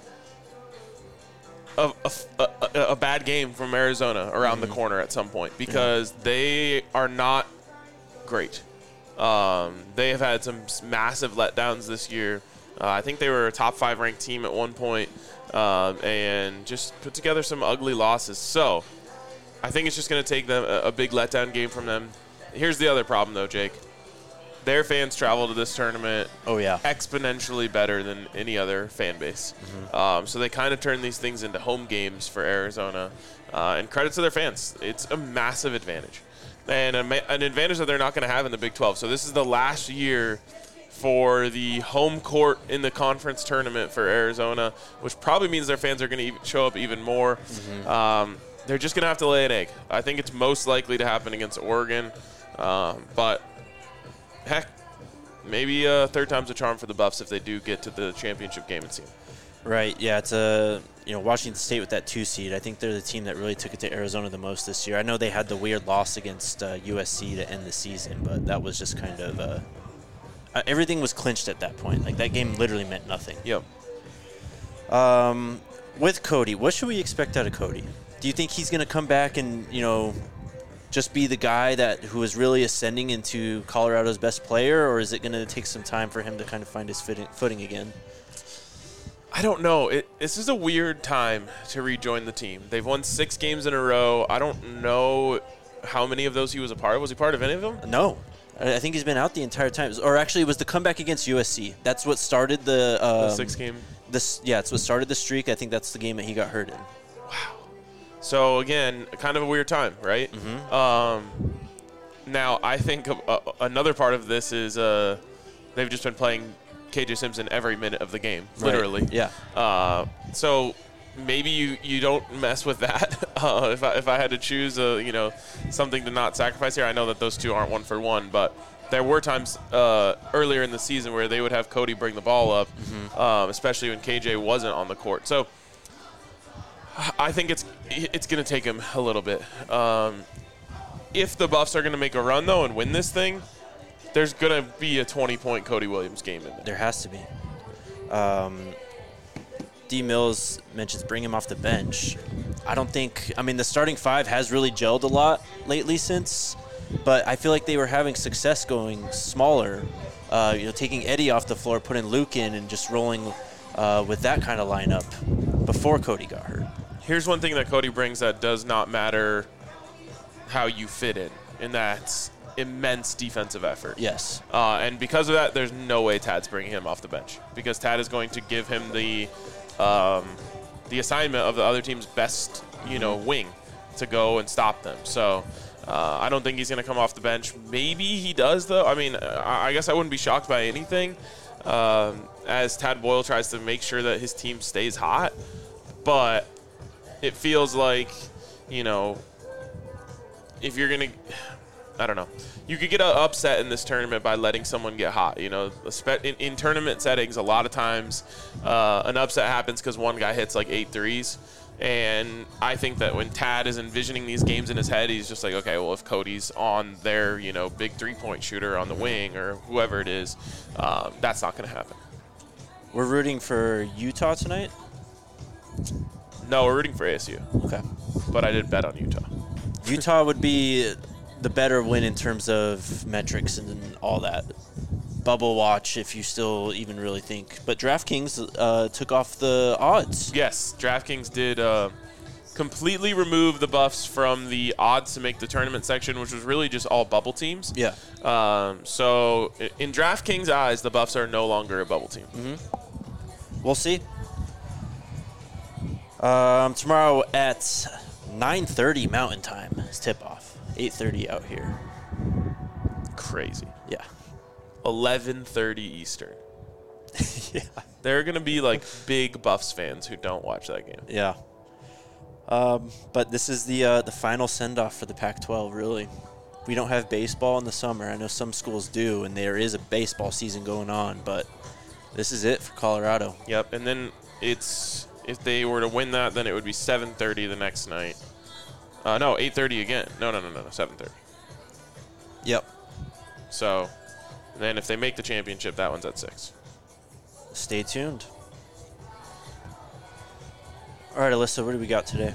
B: a, a, a a bad game from Arizona around
A: Mm-hmm.
B: the corner at some point because yeah. they are not great. Um, they have had some massive letdowns this year. Uh, I think they were a top five ranked team at one point, um, and just put together some ugly losses. So I think it's just going to take them a, a big letdown game from them. Here's the other problem, though, Jake. Their fans travel to this tournament
A: Oh, yeah.
B: exponentially better than any other fan base.
A: Mm-hmm.
B: Um, so they kind of turn these things into home games for Arizona. Uh, and credit to their fans. It's a massive advantage. And a ma- an advantage that they're not going to have in the Big twelve. So this is the last year for the home court in the conference tournament for Arizona, which probably means their fans are going to show up even more.
A: Mm-hmm.
B: Um, they're just going to have to lay an egg. I think it's most likely to happen against Oregon. Um, but, heck, maybe a third time's a charm for the Buffs if they do get to the championship game and see them.
A: Right, yeah, it's a you know Washington State with that two seed. I think they're the team that really took it to Arizona the most this year. I know they had the weird loss against uh, U S C to end the season, but that was just kind of uh, uh, everything was clinched at that point. Like that game literally meant nothing.
B: Yep.
A: Um, with Cody, what should we expect out of Cody? Do you think he's going to come back and you know just be the guy that who is really ascending into Colorado's best player, or is it going to take some time for him to kind of find his footing, footing again?
B: I don't know. It, this is a weird time to rejoin the team. They've won six games in a row. I don't know how many of those he was a part of. Was he part of any of them?
A: No. I think he's been out the entire time. Or actually, it was the comeback against U S C. That's what started the... Um,
B: the six game?
A: This, yeah, it's what started the streak. I think that's the game that he got hurt in.
B: Wow. So, again, kind of a weird time, right?
A: Mm-hmm.
B: Um, now, I think uh, another part of this is uh, they've just been playing K J Simpson every minute of the game, literally.
A: Right. Yeah.
B: Uh, so maybe you, you don't mess with that. Uh, if I if I had to choose a you know something to not sacrifice here, I know that those two aren't one for one, but there were times uh, earlier in the season where they would have Cody bring the ball up, mm-hmm. um, especially when K J wasn't on the court. So I think it's it's going to take him a little bit. Um, if the Buffs are going to make a run though and win this thing, there's going to be a twenty-point Cody Williams game in there.
A: There has to be. Um, D. Mills mentions bring him off the bench. I don't think – I mean, the starting five has really gelled a lot lately since, but I feel like they were having success going smaller, uh, you know, taking Eddie off the floor, putting Luke in, and just rolling uh, with that kind of lineup before Cody got hurt.
B: Here's one thing that Cody brings that does not matter how you fit in, and that's immense defensive effort.
A: Yes.
B: Uh, and because of that, there's no way Tad's bringing him off the bench because Tad is going to give him the – Um, the assignment of the other team's best, you know, wing to go and stop them. So uh, I don't think he's going to come off the bench. Maybe he does, though. I mean, I, I guess I wouldn't be shocked by anything um, as Tad Boyle tries to make sure that his team stays hot. But it feels like, you know, if you're going to – I don't know. You could get an upset in this tournament by letting someone get hot. You know, in, in tournament settings, a lot of times uh, an upset happens because one guy hits like eight threes. And I think that when Tad is envisioning these games in his head, he's just like, okay, well, if Cody's on their, you know, big three-point shooter on the wing or whoever it is, um, that's not going to happen.
A: We're rooting for Utah tonight?
B: No, we're rooting for A S U.
A: Okay.
B: But I did bet on Utah.
A: Utah would be the better win in terms of metrics and all that. Bubble watch, if you still even really think. But DraftKings uh, took off the odds.
B: Yes, DraftKings did uh, completely remove the Buffs from the odds to make the tournament section, which was really just all bubble teams.
A: Yeah.
B: Um, so in DraftKings' eyes, the Buffs are no longer a bubble team.
A: Mm-hmm. We'll see. Um, tomorrow at nine thirty Mountain Time is tip-off. eight thirty out here.
B: Crazy.
A: Yeah.
B: eleven thirty Eastern.
A: Yeah.
B: There are going to be, like, big Buffs fans who don't watch that game.
A: Yeah. Um, but this is the uh, the final send-off for the Pac twelve, really. We don't have baseball in the summer. I know some schools do, and there is a baseball season going on, but this is it for Colorado.
B: Yep, and then it's if they were to win that, then it would be seven thirty the next night. Uh, no, eight thirty again. No, no, no, no, no, seven thirty.
A: Yep.
B: So then if they make the championship, that one's at six.
A: Stay tuned. All right, Alyssa, what do we got today?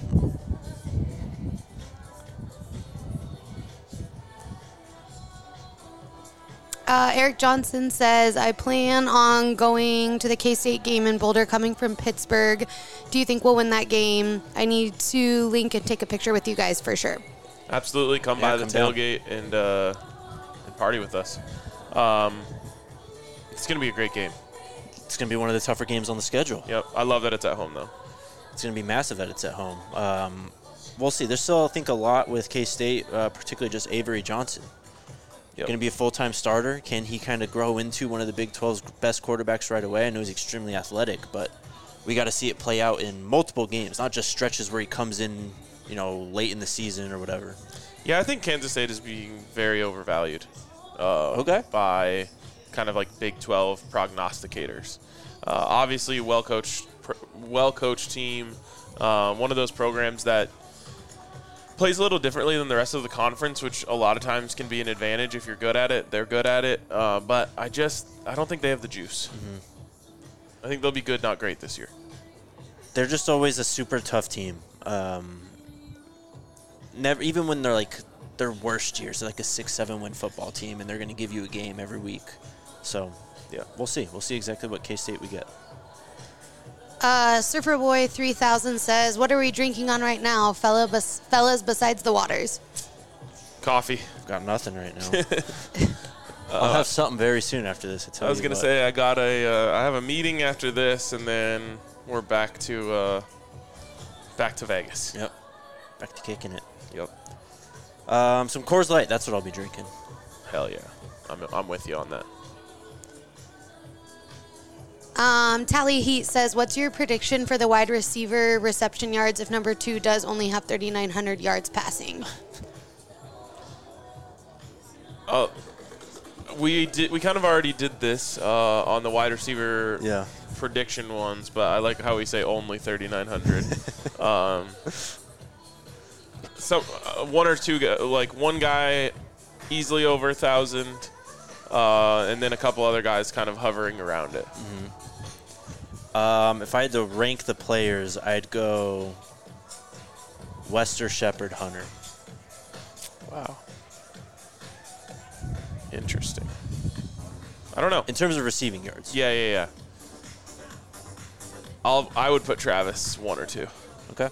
C: Uh, Eric Johnson says, I plan on going to the K-State game in Boulder coming from Pittsburgh. Do you think we'll win that game? I need to link and take a picture with you guys for sure.
B: Absolutely. Come
A: Yeah,
B: by
A: come
B: the
A: down.
B: tailgate and, uh, and party with us. Um, it's going to be a great game.
A: It's going to be one of the tougher games on the schedule.
B: Yep. I love that it's at home, though.
A: It's going to be massive that it's at home. Um, we'll see. There's still, I think, a lot with K-State, uh, particularly just Avery Johnson.
B: Yep.
A: Going to be a full-time starter. Can he kind of grow into one of the Big twelve's best quarterbacks right away? I know he's extremely athletic, but we got to see it play out in multiple games, not just stretches where he comes in, you know, late in the season or whatever.
B: Yeah, I think Kansas State is being very overvalued uh,
A: Okay.
B: by kind of like Big twelve prognosticators. Uh, obviously, well-coached, pr- well-coached team. Uh, one of those programs that plays a little differently than the rest of the conference, which a lot of times can be an advantage if you're good at it. They're good at it, uh, but I just I don't think they have the juice. Mm-hmm. I think they'll be good, not great this year.
A: They're just always a super tough team. Um, never, even when they're like their worst years, they're like a six, seven win football team, and they're going to give you a game every week. So, yeah, we'll see. We'll see exactly what K-State we get.
C: Uh, Surfer Boy three thousand says, what are we drinking on right now, fella bes- fellas, besides the waters?
B: Coffee.
A: I've got nothing right now. I'll have something very soon after this. I, tell
B: I was
A: you
B: gonna
A: what.
B: say I got a uh, I have a meeting after this, and then we're back to uh, back to Vegas.
A: Yep. Back to kicking it.
B: Yep.
A: Um, some Coors Light. That's what I'll be drinking.
B: Hell yeah. I'm I'm with you on that.
C: Um, Tally Heat says, what's your prediction for the wide receiver reception yards if number two does only have thirty-nine hundred yards passing?
B: Uh, we did. We kind of already did this uh, on the wide receiver
A: Yeah.
B: prediction ones, but I like how we say only thirty-nine hundred. um, so uh, one or two, gu- like one guy easily over a thousand, uh, and then a couple other guys kind of hovering around it.
A: Um, if I had to rank the players, I'd go Wester, Shepard, Hunter.
B: Wow. Interesting. I don't know.
A: In terms of receiving yards.
B: Yeah, yeah, yeah. I'll. I would put Travis one or two.
A: Okay.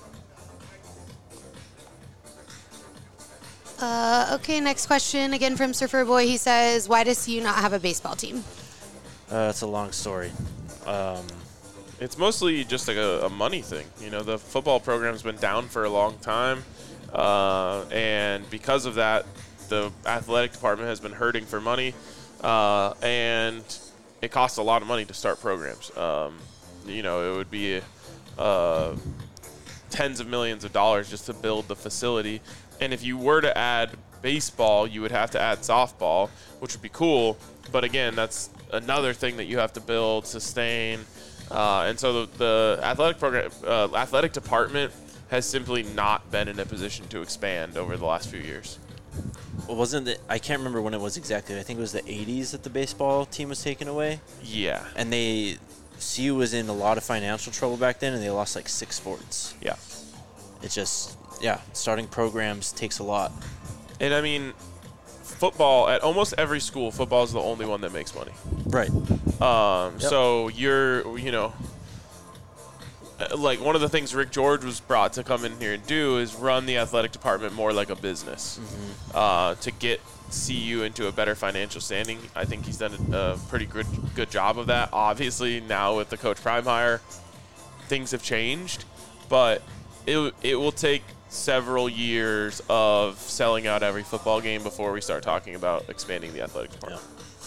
C: Uh, okay, next question again from Surfer Boy. He says, why does C U not have a baseball team?
A: Uh, it's a long story. Um,
B: It's mostly just like a, a money thing. You know, the football program's been down for a long time, uh, and because of that, the athletic department has been hurting for money, uh, and it costs a lot of money to start programs. Um, you know, it would be uh, tens of millions of dollars just to build the facility, and if you were to add baseball, you would have to add softball, which would be cool, but again, that's another thing that you have to build, sustain. Uh, and so the, the athletic program, uh, athletic department has simply not been in a position to expand over the last few years.
A: well, wasn't it? I can't remember when it was exactly. I think it was the eighties that the baseball team was taken away,
B: Yeah,
A: and they C U was in a lot of financial trouble back then, and they lost like six sports.
B: yeah.
A: It's just yeah, starting programs takes a lot.
B: And I mean, football at almost every school, football is the only one that makes money.
A: Right.
B: Um,
A: Yep.
B: So you're, you know, uh, like one of the things Rick George was brought to come in here and do is run the athletic department more like a business,
A: Mm-hmm.
B: uh, to get C U into a better financial standing. I think he's done a, a pretty good good job of that. Obviously, now with the Coach Prime hire, things have changed, but it it will take several years of selling out every football game before we start talking about expanding the athletic department.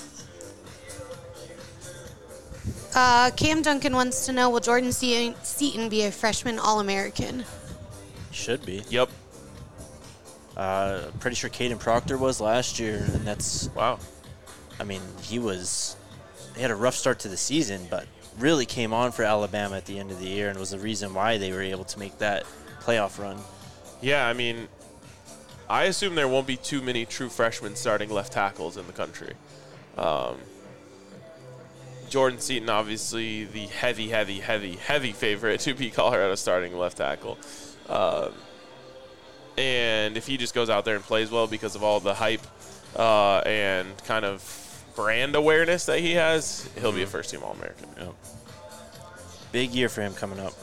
C: Uh, Cam Duncan wants to know, will Jordan Se- Seaton be a freshman All-American?
A: Should be.
B: Yep.
A: Uh, pretty sure Caden Proctor was last year, and that's.
B: Wow.
A: I mean, he was. He had a rough start to the season, but really came on for Alabama at the end of the year, and was the reason why they were able to make that playoff run.
B: Yeah, I mean, I assume there won't be too many true freshmen starting left tackles in the country. Um, Jordan Seaton, obviously the heavy, heavy, heavy, heavy favorite to be Colorado starting left tackle. Um, and if he just goes out there and plays well because of all the hype uh, and kind of brand awareness that he has, he'll be a first-team All-American.
A: Yep. Big year for him coming up.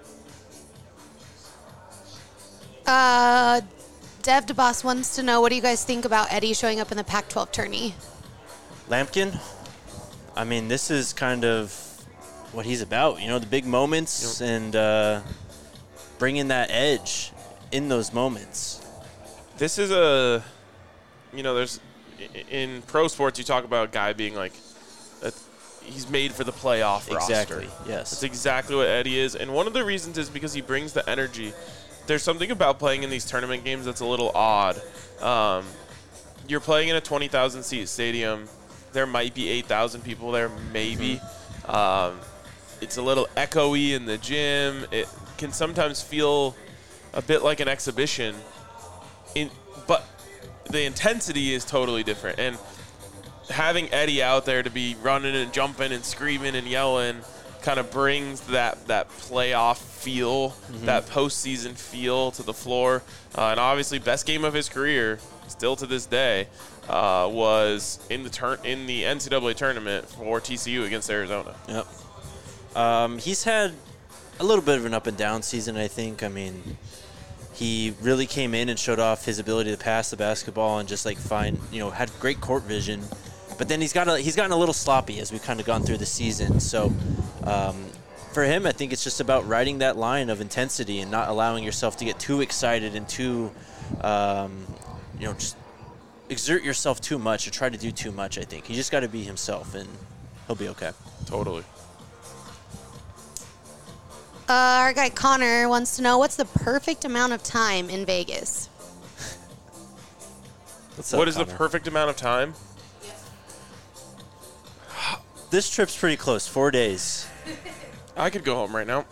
C: Uh, Dev DeBoss wants to know, what do you guys think about Eddie showing up in the Pac twelve tourney?
A: Lampkin, I mean, this is kind of what he's about. You know, the big moments
B: Yep.
A: and uh, bringing that edge in those moments.
B: This is a, you know, there's, i- in pro sports, you talk about a guy being like, a, he's made for the playoff
A: Exactly,
B: roster.
A: yes.
B: That's exactly what Eddie is. And one of the reasons is because he brings the energy. There's something about playing in these tournament games that's a little odd. Um, you're playing in a twenty thousand seat stadium. There might be eight thousand people there, maybe.
A: Mm-hmm.
B: Um, it's a little echoey in the gym. It can sometimes feel a bit like an exhibition. In, but the intensity is totally different. And having Eddie out there to be running and jumping and screaming and yelling kind of brings that, that playoff feel,
A: Mm-hmm.
B: that postseason feel to the floor. Uh, and obviously, best game of his career, still to this day, uh, was in the tur- in the N C double A tournament for T C U against Arizona.
A: Yep. Um, he's had a little bit of an up and down season, I think. I mean, he really came in and showed off his ability to pass the basketball and just like find, you know, had great court vision. But then he's got a, he's gotten a little sloppy as we've kind of gone through the season. So um, for him, I think it's just about riding that line of intensity and not allowing yourself to get too excited and too, um, you know, just exert yourself too much or try to do too much. I think he just got to be himself and he'll be okay.
B: Totally.
C: Uh, our guy Connor wants to know what's the perfect amount of time in Vegas.
A: What's up,
B: What is the
A: Connor?
B: perfect amount of time?
A: This trip's pretty close. Four days.
B: I could go home right now.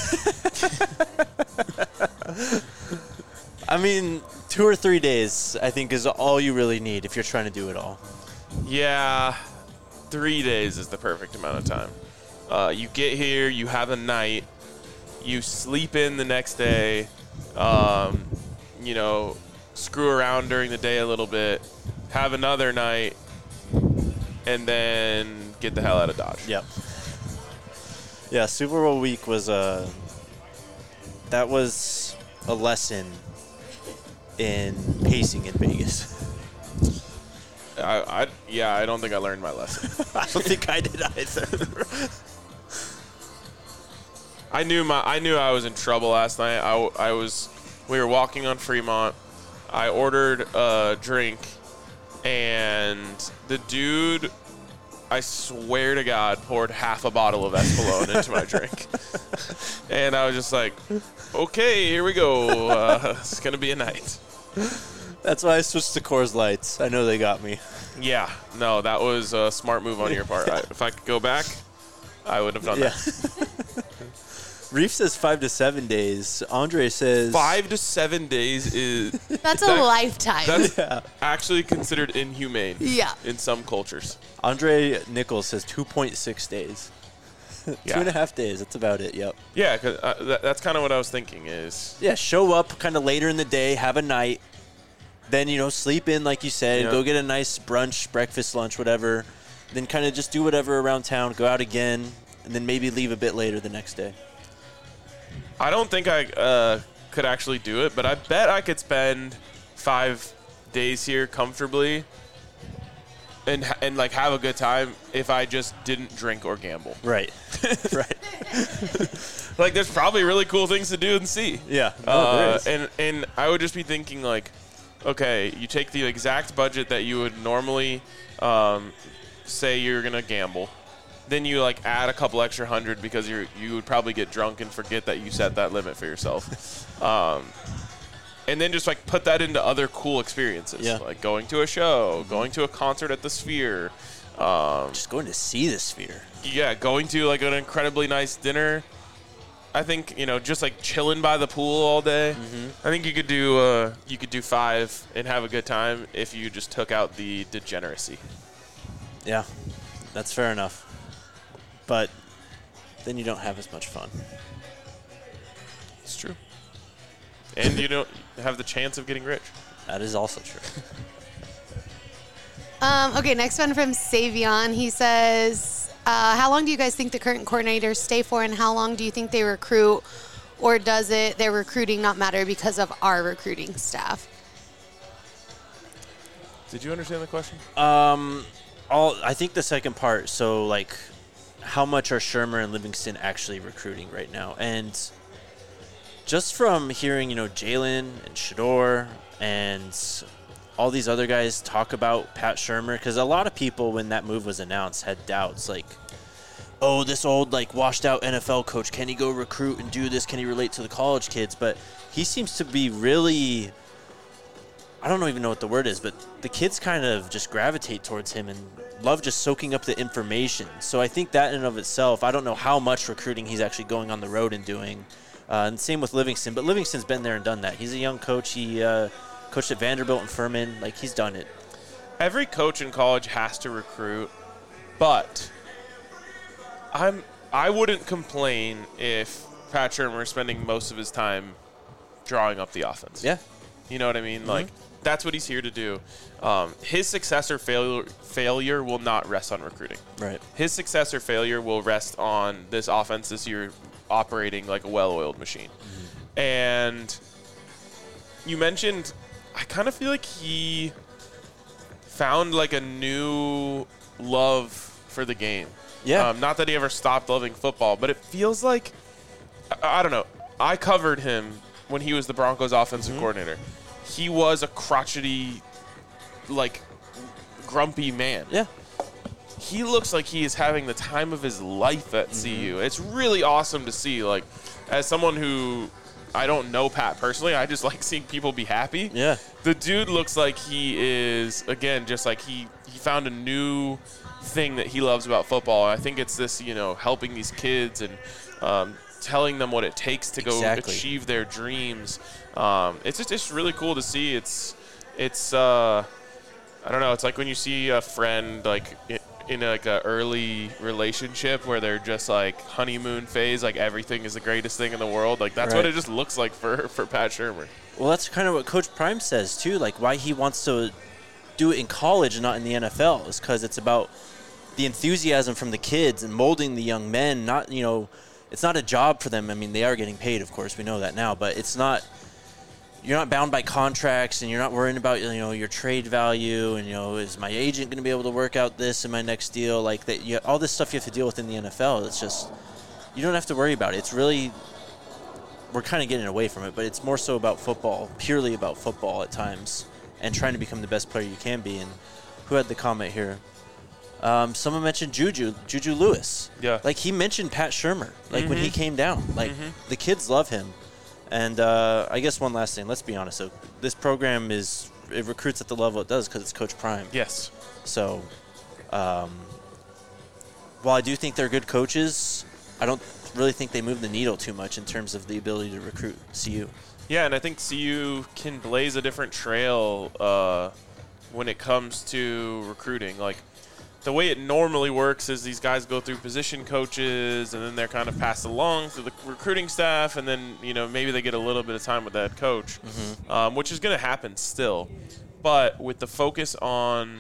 A: I mean, two or three days, I think, is all you really need if you're trying to do it all.
B: Yeah, three days is the perfect amount of time. Uh, you get here, you have a night, you sleep in the next day, um, you know, screw around during the day a little bit, have another night, and then get the hell out of Dodge.
A: Yep. Yeah, Super Bowl week was a. That was a lesson in pacing in Vegas.
B: I, I yeah, I don't think I learned my lesson.
A: I don't think I did either.
B: I knew my I knew I was in trouble last night. I, I was we were walking on Fremont. I ordered a drink, and the dude, I swear to God, poured half a bottle of Espolòn into my drink. And I was just like, okay, here we go. Uh, it's going to be a night.
A: That's why I switched to Coors Lights. I know they got me.
B: Yeah, no, that was a smart move on your part. I, if I could go back, I would have done
A: Yeah.
B: that.
A: Reef says five to seven days. Andre says
B: Five to seven days is
C: That's a
B: That-
C: lifetime.
B: that's
A: Yeah.
B: actually considered inhumane
C: yeah.
B: in some cultures.
A: Andre Nichols says two point six days.
B: Yeah.
A: Two and a half days. That's about it. Yep.
B: Yeah, 'cause, uh, that, that's kind of what I was thinking is,
A: Yeah, show up kind of later in the day, have a night, then, you know, sleep in, like you said,
B: Yeah.
A: go get a nice brunch, breakfast, lunch, whatever. Then kind of just do whatever around town, go out again, and then maybe leave a bit later the next day.
B: I don't think I uh, could actually do it, but I bet I could spend five days here comfortably and ha- and like have a good time if I just didn't drink or gamble.
A: Right. right.
B: Like, there's probably really cool things to do and see.
A: Yeah. No, there
B: Uh,
A: is.
B: and and I would just be thinking like, okay, you take the exact budget that you would normally um, say you're gonna gamble, then you like add a couple extra hundred because you you would probably get drunk and forget that you set that limit for yourself, um, and then just like put that into other cool experiences,
A: Yeah.
B: like going to a show, going to a concert at the Sphere, um,
A: Just going to see the Sphere.
B: yeah, going to like an incredibly nice dinner. I think, you know, just like chilling by the pool all day. I think you could do uh, you could do five and have a good time if you just took out the degeneracy.
A: Yeah, that's fair enough. But then you don't have as much fun.
B: It's true. And you don't have the chance of getting rich.
A: That is also true.
C: Um, okay, next one from Savion. He says, uh, how long do you guys think the current coordinators stay for, and how long do you think they recruit, or does it their recruiting not matter because of our recruiting staff?
B: Did you understand the question?
A: Um, all I think the second part. So like, how much are Shermer and Livingston actually recruiting right now? And just from hearing, you know, Jalen and Shador and all these other guys talk about Pat Shermer, because a lot of people, when that move was announced, had doubts like, oh, this old like washed out N F L coach, can he go recruit and do this? Can he relate to the college kids? But he seems to be really, I don't even know what the word is, but the kids kind of just gravitate towards him and love just soaking up the information. So I think that in and of itself, I don't know how much recruiting he's actually going on the road and doing. Uh, and same with Livingston, but Livingston's been there and done that. He's a young coach. He uh, coached at Vanderbilt and Furman. Like, he's done it.
B: Every coach in college has to recruit, but I'm I wouldn't complain if Pat Shermer is spending most of his time drawing up the offense.
A: Yeah.
B: You know what I mean? Like, that's what he's here to do. Um, his success or failure, failure will not rest on recruiting.
A: Right.
B: His success or failure will rest on this offense this year operating like a well-oiled machine. Mm-hmm. And you mentioned, I kind of feel like he found like a new love for the game.
A: Yeah.
B: Um, not that he ever stopped loving football, but it feels like, I, I don't know. I covered him when he was the Broncos offensive mm-hmm. coordinator. He was a crotchety, like, grumpy man.
A: Yeah.
B: he looks like he is having the time of his life at mm-hmm. C U. It's really awesome to see. Like, as someone who I don't know Pat personally, I just like seeing people be happy.
A: Yeah.
B: The dude looks like he is, again, just like he, he found a new thing that he loves about football. I think it's this, you know, helping these kids and um, telling them what it takes to go
A: exactly.
B: achieve their dreams. Um, it's just it's really cool to see. It's it's uh, I don't know. It's like when you see a friend like in like a early relationship where they're just like honeymoon phase, like everything is the greatest thing in the world. Like that's
A: right.
B: what it just looks like for for Pat Shurmur.
A: Well, that's kind of what Coach Prime says too. Like why he wants to do it in college and not in the N F L is because it's about the enthusiasm from the kids and molding the young men. Not you know, it's not a job for them. I mean, they are getting paid, of course, we know that now, but it's not. You're not bound by contracts, and you're not worrying about you know your trade value, and you know is my agent going to be able to work out this in my next deal? Like that, you, all this stuff you have to deal with in the N F L. It's just you don't have to worry about it. It's really we're kind of getting away from it, but it's more so about football, purely about football at times, and trying to become the best player you can be. And who had the comment here? Um, someone mentioned Juju, Juju Lewis.
B: Yeah,
A: like he mentioned Pat Shurmur. Like
B: mm-hmm.
A: when he came down, like
B: mm-hmm.
A: the kids love him. And uh, I guess one last thing. Let's be honest. So this program is it recruits at the level it does because it's Coach Prime.
B: Yes.
A: So um, while I do think they're good coaches, I don't really think they move the needle too much in terms of the ability to recruit C U.
B: Yeah, and I think C U can blaze a different trail uh, when it comes to recruiting. Like, the way it normally works is these guys go through position coaches, and then they're kind of passed along to the recruiting staff, and then, you know, maybe they get a little bit of time with that coach, mm-hmm. um, which is going to happen still. But with the focus on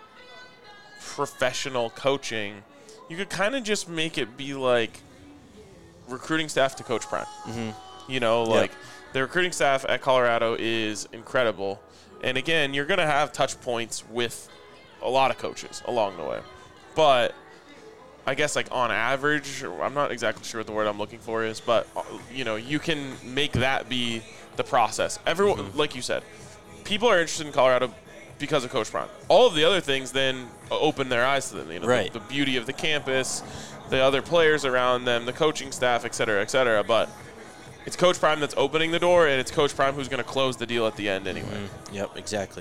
B: professional coaching, you could kind of just make it be like recruiting staff to Coach Prime. Mm-hmm. You know, like yep. the recruiting staff at Colorado is incredible. And, again, you're going to have touch points with a lot of coaches along the way. But I guess like on average, I'm not exactly sure what the word I'm looking for is, but you know, you can make that be the process. Everyone, mm-hmm. like you said, people are interested in Colorado because of Coach Prime. All of the other things then open their eyes to them. You know,
A: right.
B: the, the beauty of the campus, the other players around them, the coaching staff, et cetera, et cetera. But it's Coach Prime that's opening the door, and it's Coach Prime who's going to close the deal at the end anyway.
A: Mm-hmm. Yep, exactly.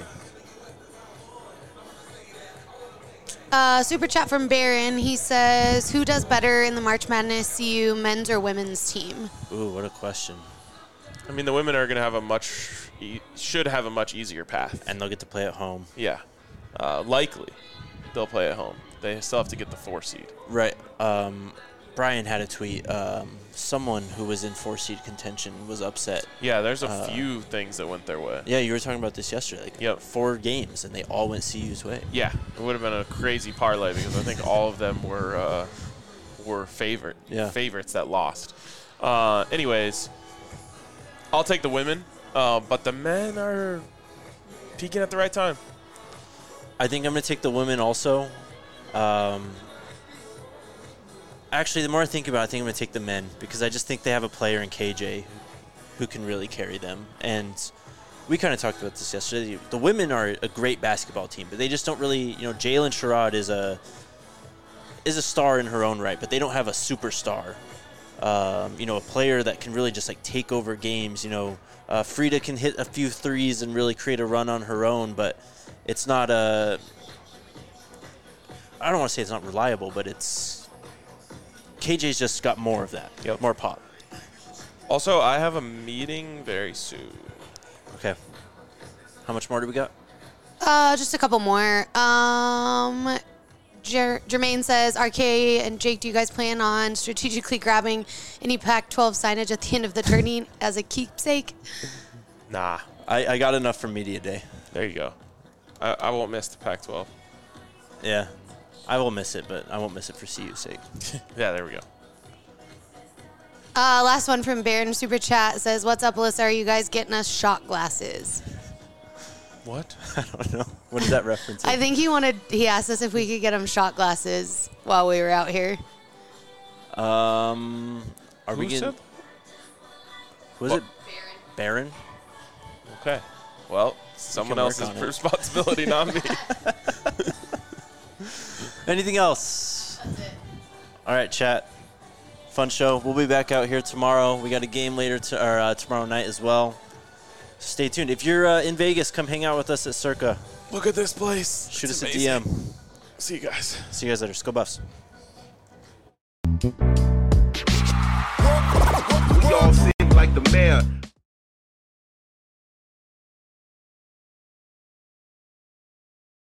C: Uh, super chat from Barron. He says, who does better in the March Madness C U men's or women's team?
A: Ooh, what a question.
B: I mean, the women are going to have a much, e- should have a much easier path.
A: And they'll get to play at home.
B: Yeah. Uh, likely, they'll play at home. They still have to get the four seed.
A: Right. Um, Brian had a tweet. Um, someone who was in four seed contention was upset.
B: Yeah, there's a
A: uh,
B: few things that went their way.
A: Yeah, you were talking about this yesterday. Like
B: yep.
A: four games, and they all went C U's way.
B: Yeah, it would have been a crazy parlay because I think all of them were uh, were favorite
A: yeah.
B: favorites that lost. Uh, anyways, I'll take the women, uh, but the men are peaking at the right time.
A: I think I'm going to take the women also. Um, actually, the more I think about it, I think I'm going to take the men because I just think they have a player in K J who can really carry them. And we kind of talked about this yesterday. The women are a great basketball team, but they just don't really, you know, Jalen Sherrod is a is a star in her own right, but they don't have a superstar. Um, you know, a player that can really just like take over games. You know, uh, Frida can hit a few threes and really create a run on her own, but it's not a. I don't want to say it's not reliable, but it's. K J's just got more of that.
B: Yep.
A: More pop.
B: Also, I have a meeting very soon.
A: Okay. How much more do we got?
C: Uh, just a couple more. Um, Jer- Jermaine says, R K and Jake, do you guys plan on strategically grabbing any Pac twelve signage at the end of the tourney as a keepsake?
B: Nah.
A: I, I got enough from Media Day.
B: There you go. I, I won't miss the Pac twelve.
A: Yeah. I will miss it, but I won't miss it for C U's sake.
B: Yeah, there we go.
C: Uh, last one from Baron Super Chat says, what's up, Alyssa? Are you guys getting us shot glasses?
B: What?
A: I don't know. What is that reference?
C: I think he wanted, he asked us if we could get him shot glasses while we were out here.
A: Um, are
B: Who
A: we getting?
B: said?
A: Was
B: Well-
A: it Baron?
B: Okay. Well, someone
A: work
B: else's
A: on it.
B: responsibility, not me.
A: Anything else? All right, chat. Fun show. We'll be back out here tomorrow. We got a game later to, or uh, tomorrow night as well. Stay tuned. If you're uh, in Vegas, come hang out with us at Circa.
B: Look at this place.
A: Shoot
B: It's
A: us
B: amazing.
A: a D M.
B: See you guys.
A: See you guys later. Go Buffs.
D: We all seem like the mayor.